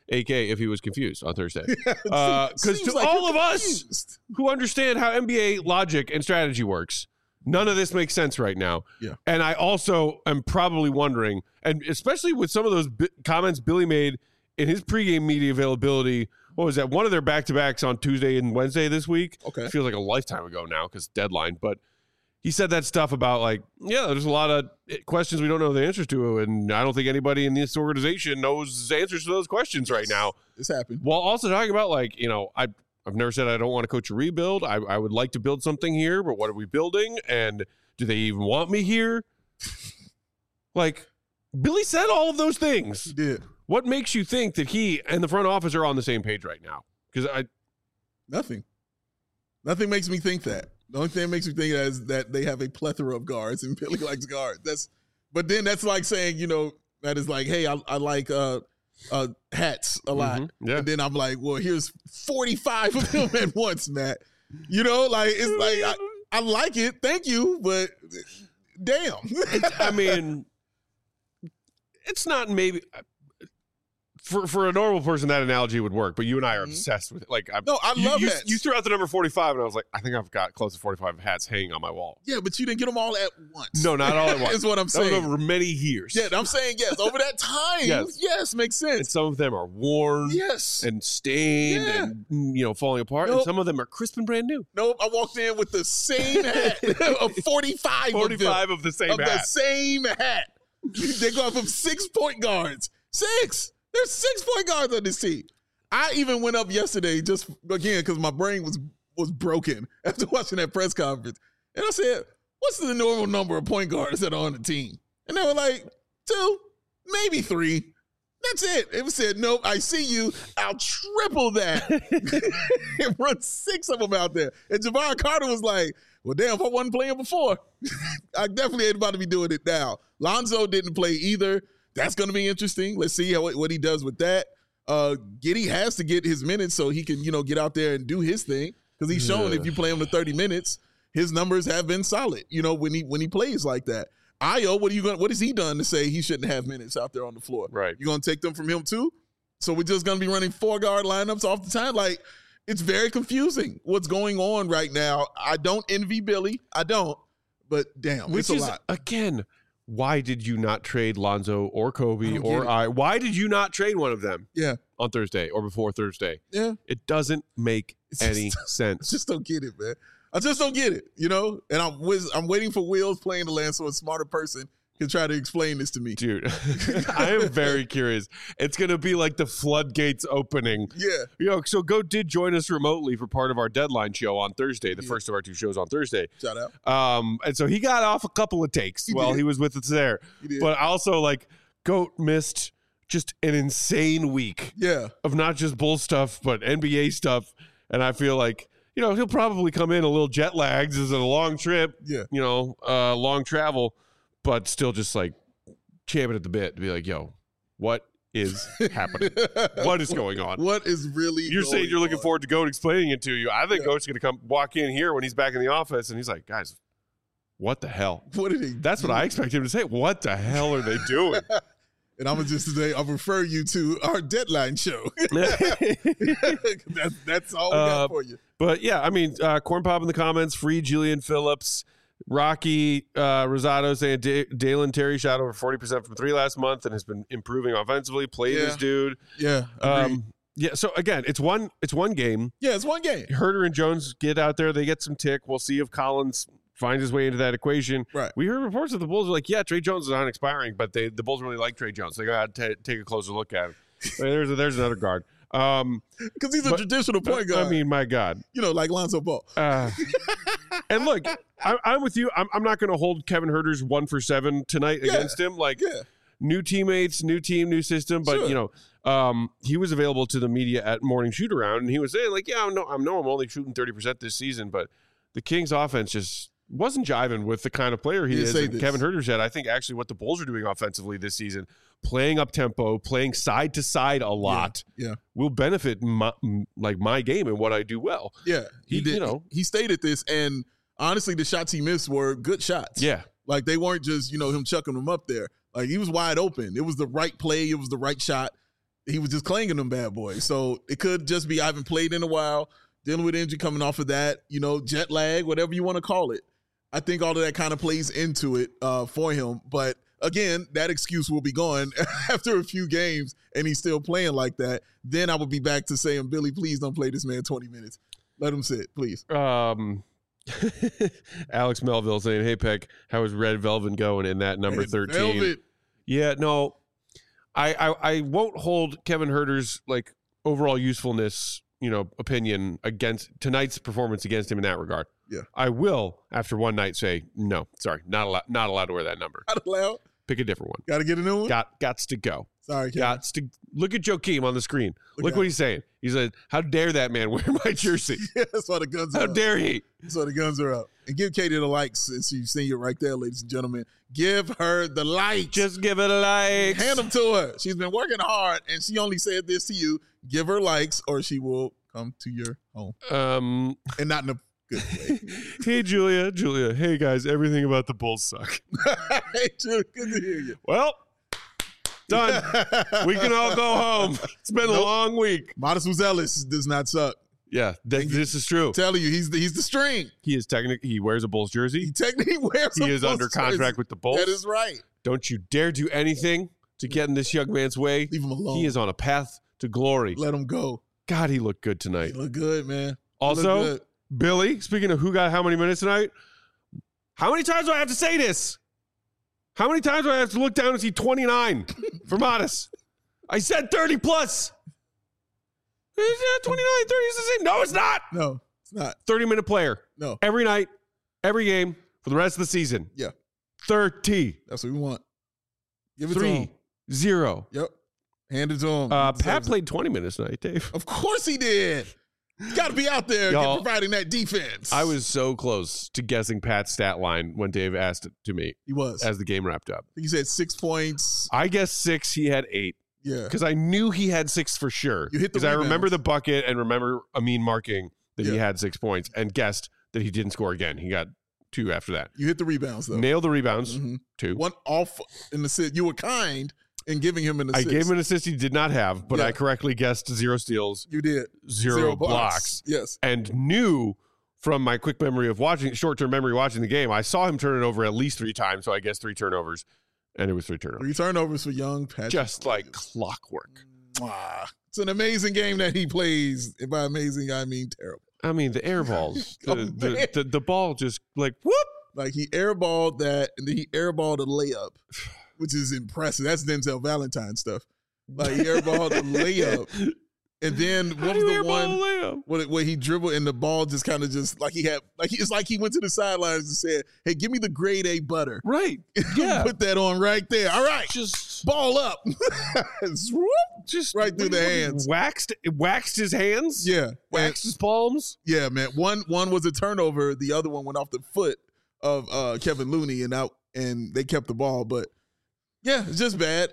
AK if he was confused on Thursday. Because to like all of you're us confused. who understand how NBA logic and strategy works, none of this makes sense right now. Yeah. And I also am probably wondering, and especially with some of those comments Billy made in his pregame media availability, what was that? One of their back-to-backs on Tuesday and Wednesday this week. Okay. It feels like a lifetime ago now because deadline. But he said that stuff about like, yeah, there's a lot of questions we don't know the answers to. And I don't think anybody in this organization knows the answers to those questions right now. This happened. While also talking about like, I've never said I don't want to coach a rebuild. I would like to build something here, but what are we building? And do they even want me here? Like, Billy said all of those things. He did. What makes you think that he and the front office are on the same page right now? Because Nothing makes me think that. The only thing that makes me think is that they have a plethora of guards and Billy likes guards. But then that's like saying, that is like, hey, I like hats a lot. Mm-hmm. Yeah. And then I'm like, well, here's 45 of them at once, Matt. It's like I like it, thank you, but damn. It's not maybe. For a normal person, that analogy would work, but you and I are obsessed with it. Like, I love hats. You threw out the number 45, and I was like, I think I've got close to 45 hats hanging on my wall. Yeah, but you didn't get them all at once. No, not all at once. Is what I'm saying. That was over many years. Yeah, I'm saying yes. Over that time, yes, makes And sense. some of them are worn, Yes. and stained, and falling apart. Nope. And some of them are crisp and brand new. Nope, I walked in with the same hat of 45 45 of the same hat. the same hat. They go from 6 point guards. 6. There's 6 point guards on this team. I even went up yesterday just again because my brain was broken after watching that press conference, and I said, "What's the normal number of point guards that are on the team?" And they were like, 2, maybe 3. That's it. It said, "Nope, I see you. I'll triple that and run 6 of them out there." And Jabari Carter was like, "Well, damn, if I wasn't playing before, I definitely ain't about to be doing it now." Lonzo didn't play either. That's going to be interesting. Let's see what he does with that. Giddey has to get his minutes so he can, get out there and do his thing because he's shown if you play him to 30 minutes, his numbers have been solid. When he plays like that. Ayo, what has he done to say he shouldn't have minutes out there on the floor? Right. You going to take them from him too? So we're just going to be running 4-guard lineups off the time. Like, it's very confusing what's going on right now. I don't envy Billy. I don't. But damn, Which it's a is, lot. again, why did you not trade Lonzo or Kobe why did you not trade one of them? Yeah. On Thursday or before Thursday? Yeah. It doesn't make any I sense. just don't get it, man. I just don't get it, And I'm waiting for Wheels playing the land so a smarter person can try to explain this to me. Dude, I am very curious. It's going to be like the floodgates opening. Yeah. So Goat did join us remotely for part of our deadline show on Thursday, the first of our 2 shows on Thursday. Shout out. And so he got off a couple of takes while he was with us there. He did. But also, Goat missed just an insane week of not just Bulls stuff, but NBA stuff. And I feel like, he'll probably come in a little jet lagged. This is a long trip, long travel. But still just champing at the bit to be like, yo, what is happening? What is going on? What is really You're going saying you're looking on? forward to Goat explaining it to you. I think Goat's going to walk in here when he's back in the office, and he's like, guys, what the hell? What did he That's do? what I expect him to say. What the hell are they doing? And I'm going to just say, I'll refer you to our deadline show. That's all we got for you. But, yeah, Corn Pop in the comments, free Julian Phillips. Rocky Rosado saying Dalen Terry shot over 40% from 3 last month and has been improving offensively. Play this dude. Yeah. So again, it's one game. Yeah, it's one game. Herter and Jones get out there. They get some tick. We'll see if Collins finds his way into that equation. Right. We heard reports that the Bulls are like, yeah, Trey Jones is on expiring, but the Bulls really like Trey Jones. They got to take a closer look at him. There's another guard. Because he's a traditional point guard. My God. Like Lonzo Ball. And look, I'm with you. I'm not going to hold Kevin Herter's 1 for 7 tonight against him. New teammates, new team, new system. But, he was available to the media at morning shoot around, and he was saying, I'm only shooting 30% this season, but the Kings offense just wasn't jiving with the kind of player he is. And Kevin Herter said, I think actually what the Bulls are doing offensively this season, playing up tempo, playing side to side a lot, will benefit my game and what I do well. Yeah, he did. He stated this, and honestly, the shots he missed were good shots. Yeah, they weren't just him chucking them up there. He was wide open. It was the right play. It was the right shot. he was just clanging them bad boys. So it could just be I haven't played in a while, dealing with injury, coming off of that, jet lag, whatever you want to call it. I think all of that kind of plays into it for him. But again, that excuse will be gone after a few games and he's still playing like that. Then I would be back to saying, Billy, please don't play this man 20 minutes. Let him sit, please. Alex Melville saying, hey, Peck, how is Red Velvet going in that number 13? Velvet. Yeah, no, I won't hold Kevin Huerter's like overall usefulness, opinion against tonight's performance against him in that regard. Yeah. I will, after one night, say, no, sorry, not allowed to wear that number. Not allowed? Pick a different one. Got to get a new one? Gots to go. Sorry, Kevin. Gots to look at Joakim on the screen. Look what he's saying. He said, how dare that man wear my jersey? Yeah, that's why the guns are up. How dare he? That's why the guns are up. And give Katie the likes since you've seen it right there, ladies and gentlemen. Give her the likes. Just give it a like. Hand them to her. She's been working hard, and she only said this to you. Give her likes, or she will come to your home. And not in a good way. Hey, Julia. Hey, guys, everything about the Bulls suck. Hey, Julia, good to hear you. Well, done. We can all go home. It's been a long week. Modest Ellis does not suck. Yeah, this is true. I'm telling you, he's the string. He is he wears a Bulls jersey. He technically wears He is under contract with the Bulls. That is right. Don't you dare do anything to get in this young man's way. Leave him alone. He is on a path to glory. Let him go. God, he looked good tonight. He looked good, man. Also, Billy, speaking of who got how many minutes tonight, how many times do I have to say this? How many times do I have to look down and see 29 for Modest? I said 30 plus. Is that 29, 30 is the same? No, it's not. No, it's not. 30-minute player. No. Every night, every game for the rest of the season. Yeah. 30. That's what we want. Give it to him. 3-0. Yep. Hand it to him. Pat played 20 minutes tonight, Dave. Of course he did. He's got to be out there providing that defense. I was so close to guessing Pat's stat line when Dave asked it to me. He was. As the game wrapped up. He said 6 points. I guessed 6. He had 8. Yeah. Because I knew he had 6 for sure. You hit the Because I remember the bucket and remember Amin marking that he Yeah. had 6 points and guessed that he didn't score again. He got 2 after that. You hit the rebounds, though. Nailed the rebounds. 2. One off in the sit. You were kind in giving him an assist. I gave him an assist he did not have, but Yeah. I correctly guessed 0 steals. You did. 0 blocks. Yes. And knew from my quick memory of short-term memory watching the game, I saw him turn it over at least 3 times, so I guess 3 turnovers. And it was 3 turnovers. 3 turnovers for young Patrick. Just like clockwork. Mwah. It's an amazing game that he plays. And by amazing, I mean terrible. I mean, the air balls. Oh, the ball just like, whoop. Like he airballed that, and then he airballed a layup, which is impressive. That's Denzel Valentine stuff. Like he airballed a layup, and then what was the one where he dribbled and the ball just kind of just like it's like he went to the sidelines and said, "Hey, give me the grade A butter." Right. Yeah. Put that on right there. All right. Just ball up. just right through the hands. Waxed his hands. Yeah. Waxed his palms. Yeah, man. One was a turnover. The other one went off the foot of Kevin Looney and they kept the ball. But yeah, it's just bad.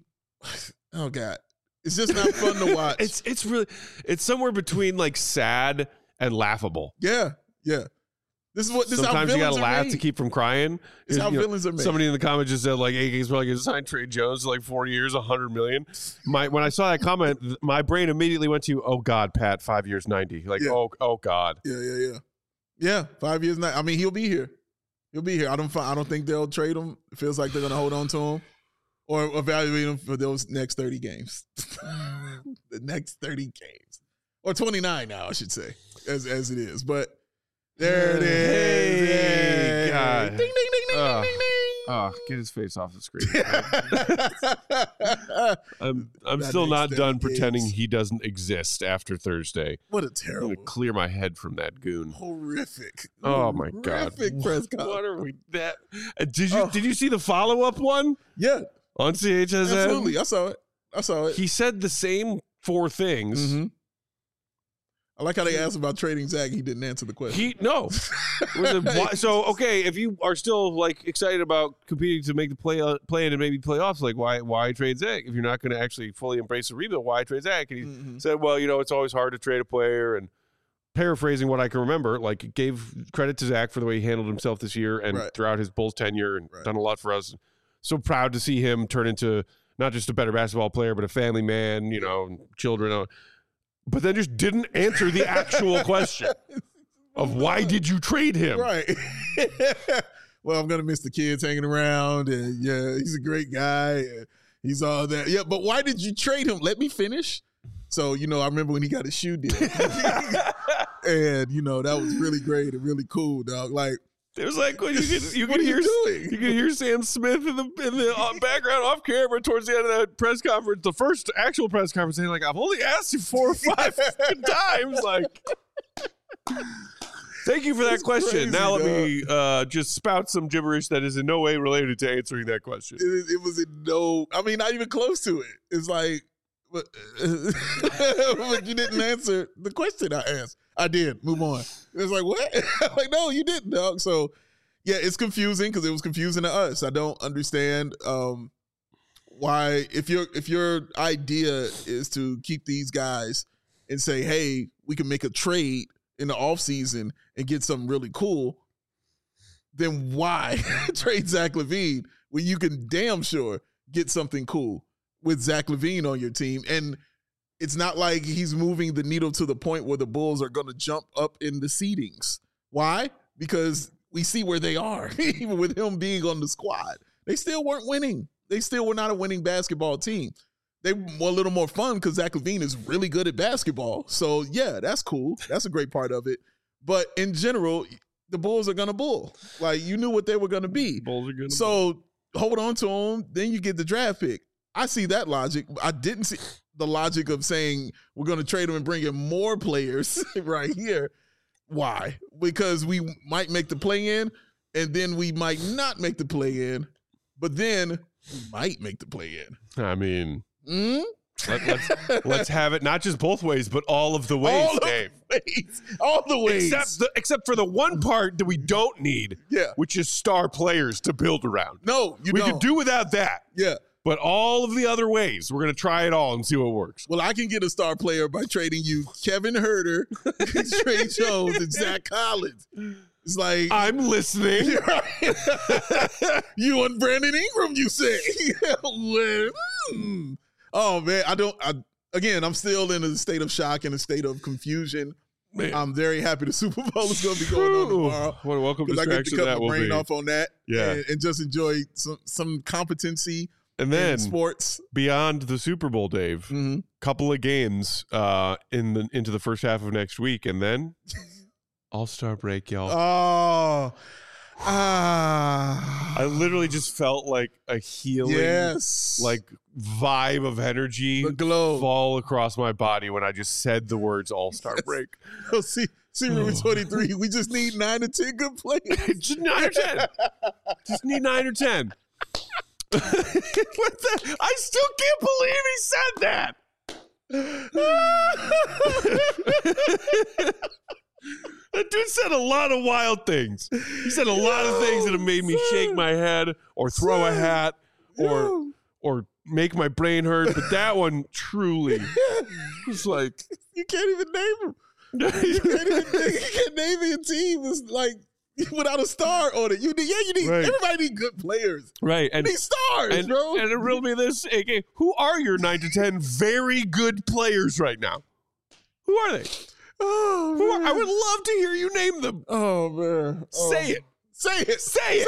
Oh God. It's just not fun to watch. It's somewhere between like sad and laughable. Yeah. Yeah. Sometimes you gotta laugh to keep from crying. This is how villains are made. Somebody in the comments just said like AK's probably gonna sign Trey Jones to like 4 years, $100 million. When I saw that comment, my brain immediately went to, oh God, Pat, 5 years, 90. Like, Yeah. oh God. Yeah, 5 years now. I mean, he'll be here. I don't think they'll trade him. It feels like they're gonna hold on to him or evaluate him for those next 30 games. The next 30 games. Or 29 now, I should say, as it is. But there it is. Hey, God. Ding, ding, ding, ding, ding, ding, ding. Oh, get his face off the screen. I'm That still makes not them done games. pretending he doesn't exist after Thursday. What a I'm terrible, going to clear my head from that goon. horrific. Oh my God! Horrific press conference. What are we? Did you see the follow-up one Yeah, on CHSN? absolutely. I saw it. He said the same 4 things. Mhm. I like how they asked about trading Zach. He didn't answer the question. So okay, if you are still like excited about competing to make the play-in and maybe playoffs, like why trade Zach if you're not going to actually fully embrace the rebuild? Why trade Zach? And he said, well, it's always hard to trade a player. And paraphrasing what I can remember, like gave credit to Zach for the way he handled himself this year and Right. throughout his Bulls tenure and done a lot for us. So proud to see him turn into not just a better basketball player, but a family man, children. But then just didn't answer the actual question of why did you trade him? Right. Well, I'm going to miss the kids hanging around. And yeah, he's a great guy. And he's all that. Yeah, but why did you trade him? Let me finish. So, I remember when he got his shoe deal. And, that was really great and really cool, dog. Like, it was like when you what could are hear you doing? You could hear Sam Smith in the background off camera towards the end of that press conference, the first actual press conference, saying like, "I've only asked you 4 or 5 times." Like, thank you for that question. Crazy, now let me just spout some gibberish that is in no way related to answering that question. It was not even close to it. It's like, but you didn't answer the question I asked. I did. Move on. It's like, what? I'm like, no, you didn't, dog. So, yeah, it's confusing because it was confusing to us. I don't understand why, if your idea is to keep these guys and say, hey, we can make a trade in the offseason and get something really cool, then why trade Zach LaVine when you can damn sure get something cool with Zach LaVine on your team? And it's not like he's moving the needle to the point where the Bulls are going to jump up in the seedings. Why? Because we see where they are, even with him being on the squad. They still weren't winning. They still were not a winning basketball team. They were a little more fun because Zach LaVine is really good at basketball. So, yeah, that's cool. That's a great part of it. But in general, the Bulls are going to bull. Like, you knew what they were going to be. Bulls are going to So, hold on to them. Then you get the draft pick. I see that logic. I didn't see the logic of saying we're going to trade them and bring in more players right here. Why? Because we might make the play-in, and then we might not make the play-in, but then we might make the play-in. I mean, let's have it not just both ways, but all of the ways, Dave. All the ways. Except for the one part that we don't need, which is star players to build around. No, we could do without that. Yeah. But all of the other ways, we're going to try it all and see what works. Well, I can get a star player by trading you Kevin Herter, Trey Jones, and Zach Collins. It's like, I'm listening. You and Brandon Ingram, you say. Oh, man. I'm still in a state of shock and a state of confusion. Man. I'm very happy the Super Bowl is going to be going on tomorrow. What a welcome distraction I get to cut that my brain be. off on that. Yeah. And just enjoy some competency. And then sports beyond the Super Bowl, Dave, couple of games into the first half of next week, and then All-Star break, y'all. I literally just felt like a healing, like vibe of energy fall across my body when I just said the words All-Star break. Oh, see, Room 23. We just need 9 or 10 good players. Just 9 or 10. Just need 9 or 10. I still can't believe he said that. That dude said a lot of wild things. He said a lot of things that have made me shake my head or throw a hat or make my brain hurt. But that one truly was like, you can't even name him. You can't name your team. It's like without a star on it. You need everybody need good players. Right. And you need stars, bro. And it riddled me this, AK. Who are your 9 to 10 very good players right now? Who are they? Oh, I would love to hear you name them. Oh, man. Say it. Say it. Say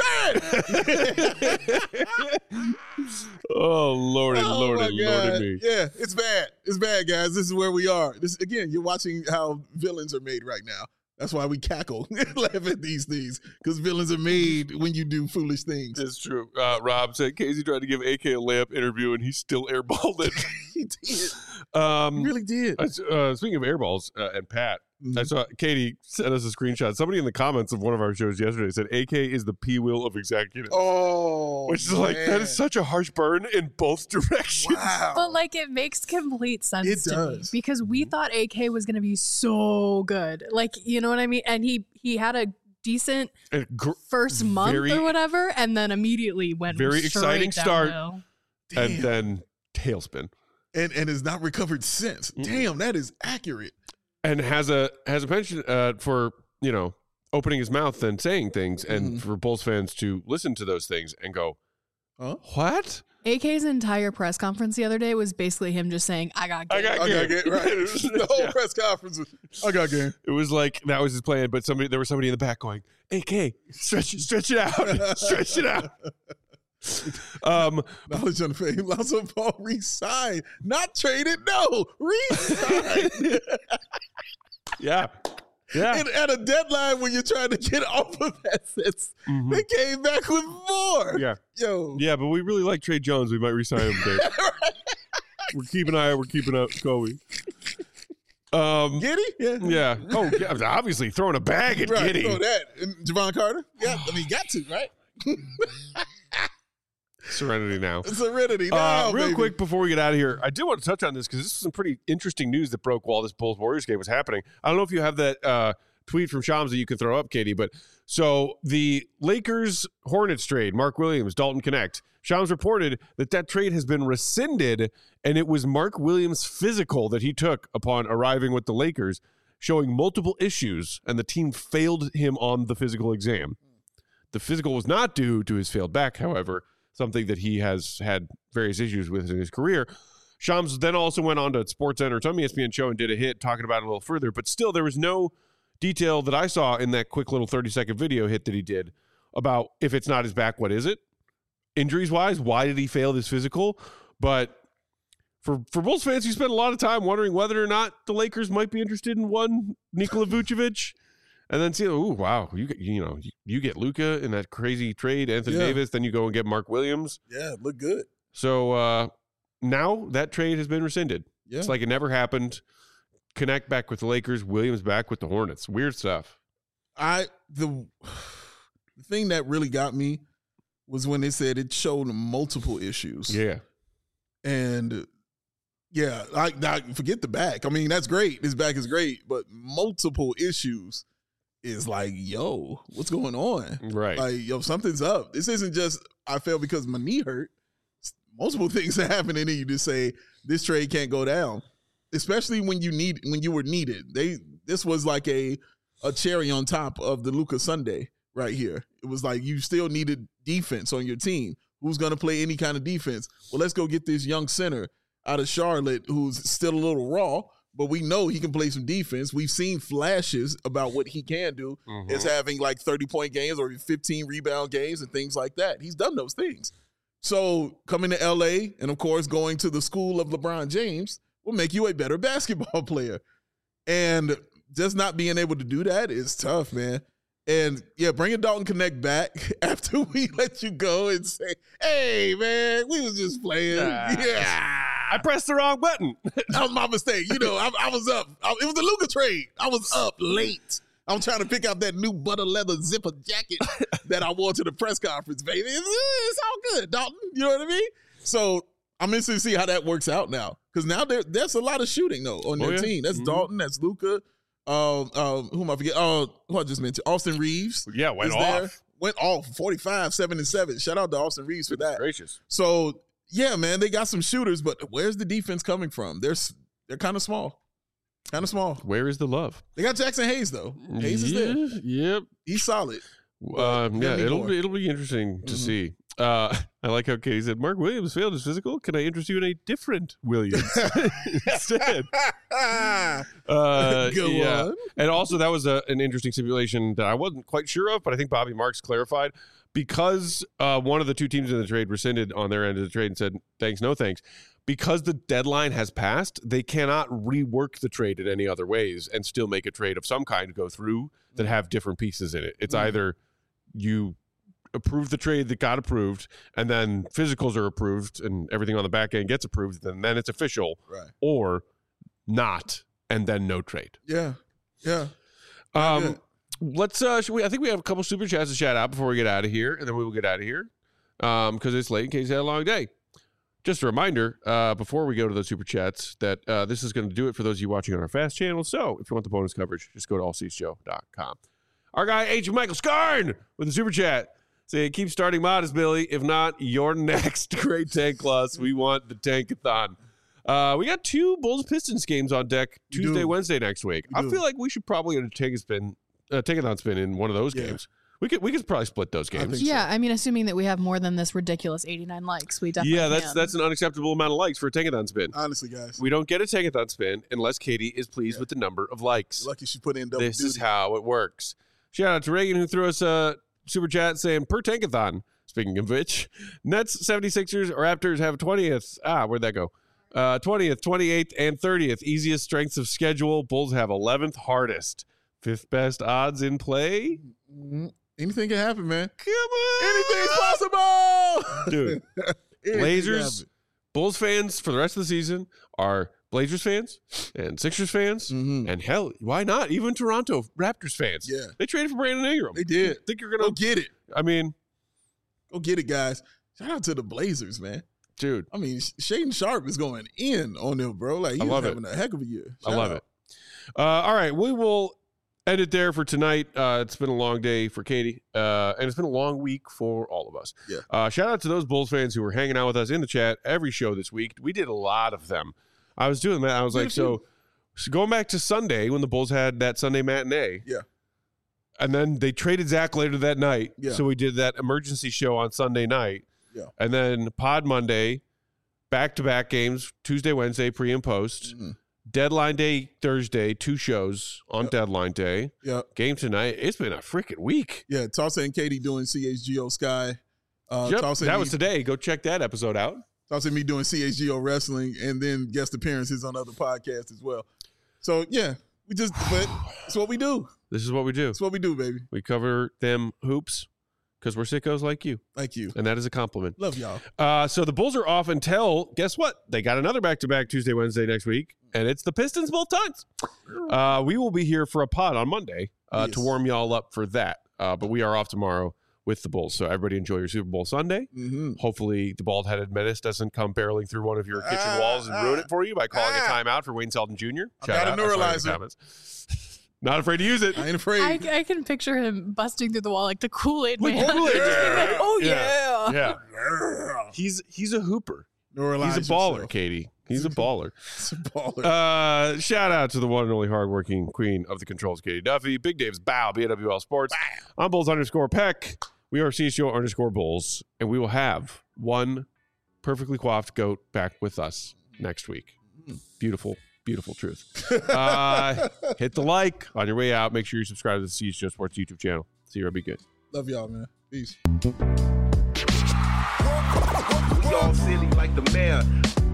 it. Oh, Lordy me. Yeah, it's bad. It's bad, guys. This is where we are. Again, you're watching how villains are made right now. That's why we cackle and laugh at these things, because villains are made when you do foolish things. It's true. Rob said Casey tried to give AK a layup interview, and he still airballed it. He did. He really did. Speaking of airballs and Pat, I saw Katie sent us a screenshot. Somebody in the comments of one of our shows yesterday said AK is the P-wheel of executives. Oh, which is like, that is such a harsh burn in both directions. Wow. But like, it makes complete sense to me, because we thought AK was going to be so good. Like, you know what I mean? And he had a decent first month or whatever, and then immediately went very exciting start, and then tailspin. And has not recovered since. Damn, that is accurate. And has a penchant for, opening his mouth and saying things, and for Bulls fans to listen to those things and go, huh? What? AK's entire press conference the other day was basically him just saying, I got game. I got game, right? The whole press conference was, I got game. It was like, that was his plan, but there was somebody in the back going, AK, stretch it out. Stretch it out. Knowledge on the fame. Lonzo Ball re-signed. Not traded, no. Re-signed. Yeah. Yeah. And at a deadline when you're trying to get off of assets, they came back with more. Yeah. Yo. Yeah, but we really like Trey Jones. We might re-sign him, Dave. We're keeping an eye out. We're keeping up Kobe. Giddey? Yeah. Yeah. Oh, yeah, obviously throwing a bag at Right, Giddey. throw that. And Javon Carter? Yeah, I mean, got to, right? Serenity now. Serenity now, real baby. quick before we get out of here, I do want to touch on this because this is some pretty interesting news that broke while this Bulls-Warriors game was happening. I don't know if you have that tweet from Shams that you can throw up, Katie, but so the Lakers-Hornets trade, Mark Williams, Dalton Connect, Shams reported that trade has been rescinded, and it was Mark Williams' physical that he took upon arriving with the Lakers, showing multiple issues, and the team failed him on the physical exam. The physical was not due to his failed back, however, something that he has had various issues with in his career. Shams then also went on to SportsCenter or some ESPN show and did a hit talking about it a little further, but still there was no detail that I saw in that quick little 30-second video hit that he did about if it's not his back, what is it? Injuries-wise, why did he fail this physical? But for Bulls fans, you spent a lot of time wondering whether or not the Lakers might be interested in one Nikola Vucevic. And then see, oh wow, you get Luka in that crazy trade, Anthony Davis, then you go and get Mark Williams. Yeah, look good. So now that trade has been rescinded. Yeah. It's like it never happened. Connect back with the Lakers, Williams back with the Hornets. Weird stuff. The thing that really got me was when they said it showed multiple issues. Yeah. And yeah, I forget the back. I mean, that's great. His back is great, but multiple issues is like, yo, what's going on? Right. Like, yo, something's up. This isn't just I fell because my knee hurt. Multiple things are happening, and you just say this trade can't go down, especially when you were needed. This was like a cherry on top of the Luka Sunday right here. It was like you still needed defense on your team. Who's going to play any kind of defense? Well, let's go get this young center out of Charlotte who's still a little raw, but we know he can play some defense. We've seen flashes about what he can do as having like 30-point games or 15 rebound games and things like that. He's done those things. So coming to LA and, of course, going to the school of LeBron James will make you a better basketball player. And just not being able to do that is tough, man. And, yeah, bringing Dalton Connect back after we let you go and say, hey, man, we was just playing. I pressed the wrong button. That was my mistake. I was up. It was the Luka trade. I was up late. I'm trying to pick out that new butter leather zipper jacket that I wore to the press conference, baby. It's all good, Dalton. You know what I mean? So I'm interested to see how that works out now. Because now there's a lot of shooting, though, on their team. That's Dalton. That's Luka. Who am I forget? Who I just mentioned? Austin Reeves. Yeah, went off. Went off 45, 7-7. Shout out to Austin Reeves for that. Gracious. So, yeah, man, they got some shooters, but where's the defense coming from? They're kind of small. Kind of small. Where is the love? They got Jackson Hayes, though. Hayes is there. Yep. He's solid. It'll be interesting to see. I like how Katie said, Mark Williams failed his physical. Can I interest you in a different Williams instead? Go on. And also, that was an interesting simulation that I wasn't quite sure of, but I think Bobby Marks clarified. Because one of the two teams in the trade rescinded on their end of the trade and said, thanks, no thanks. Because the deadline has passed, they cannot rework the trade in any other ways and still make a trade of some kind go through that have different pieces in it. It's either you approve the trade that got approved and then physicals are approved and everything on the back end gets approved, and then it's official, right, or not, and then no trade. Yeah. Let's I think we have a couple super chats to shout out before we get out of here, and then we will get out of here because it's late in case you had a long day. Just a reminder, before we go to the super chats, that this is going to do it for those of you watching on our Fast channel. So if you want the bonus coverage, just go to allseatsshow.com. Our guy, H. Michael Scarn, with a super chat. Say, keep starting modest, Billy. If not, you're next. Great tank loss. We want the tankathon. We got 2 Bulls-Pistons games on deck Tuesday, Wednesday next week. I feel like we should probably get a tankathon spin in one of those games. We could probably split those games. Yeah, I mean, assuming that we have more than this ridiculous 89 likes, we definitely that's an unacceptable amount of likes for a Tankathon spin. Honestly, guys. We don't get a Tankathon spin unless Katie is pleased with the number of likes. You're lucky she put in double This duty. is how it works. Shout out to Reagan who threw us a super chat saying, per Tankathon. Speaking of which, Nets, 76ers, Raptors have 20th. Where'd that go? 20th, 28th, and 30th. Easiest strengths of schedule. Bulls have 11th hardest. 5th best odds in play. Anything can happen, man. Come on. Anything's possible. Dude, Blazers, Bulls fans for the rest of the season are Blazers fans and Sixers fans. And hell, why not? Even Toronto Raptors fans. Yeah. They traded for Brandon Ingram. They did. Think you're going to go get it. I mean, go get it, guys. Shout out to the Blazers, man. Dude. I mean, Shaedon Sharpe is going in on them, bro. Like, he's having a heck of a year. I love it. All right. We will end it there for tonight. It's been a long day for Katie, and it's been a long week for all of us. Yeah. Shout out to those Bulls fans who were hanging out with us in the chat every show this week. We did a lot of them. I was doing that. I was like, so going back to Sunday when the Bulls had that Sunday matinee. Yeah. And then they traded Zach later that night. Yeah. So we did that emergency show on Sunday night. Yeah. And then Pod Monday, back-to-back games, Tuesday, Wednesday, pre and post. Deadline day Thursday, 2 shows on deadline day. Yeah. Game tonight. It's been a freaking week. Yeah. Tulsa and Katie doing CHGO Sky. That was today. Go check that episode out. Tulsa and me doing CHGO wrestling and then guest appearances on other podcasts as well. So, yeah. But it's what we do. This is what we do. It's what we do, baby. We cover them hoops because we're sickos like you. Like you. And that is a compliment. Love y'all. So the Bulls are off until, guess what? They got another back-to-back Tuesday, Wednesday next week, and it's the Pistons both times. We will be here for a pod on Monday to warm y'all up for that. But we are off tomorrow with the Bulls. So everybody enjoy your Super Bowl Sunday. Hopefully the bald-headed menace doesn't come barreling through one of your kitchen walls and ruin it for you by calling a timeout for Wayne Selden Jr. Shout out. Neuralizer. Not afraid to use it. I ain't afraid. I can picture him busting through the wall like the Kool-Aid man. Yeah. Oh, yeah. Yeah. He's a hooper. Neuralize He's a baller, yourself. Katie. He's a baller. He's a baller. Shout out to the one and only hardworking queen of the controls, Katie Duffy. Big Dave's Bow, BWL Sports. I'm Bulls_Peck. We are CHGO_Bulls, and we will have one perfectly coiffed goat back with us next week. Beautiful, beautiful truth. Hit the like on your way out. Make sure you subscribe to the CHGO Sports YouTube channel. See you. Be good. Love y'all, man. Peace. We all silly like the mayor.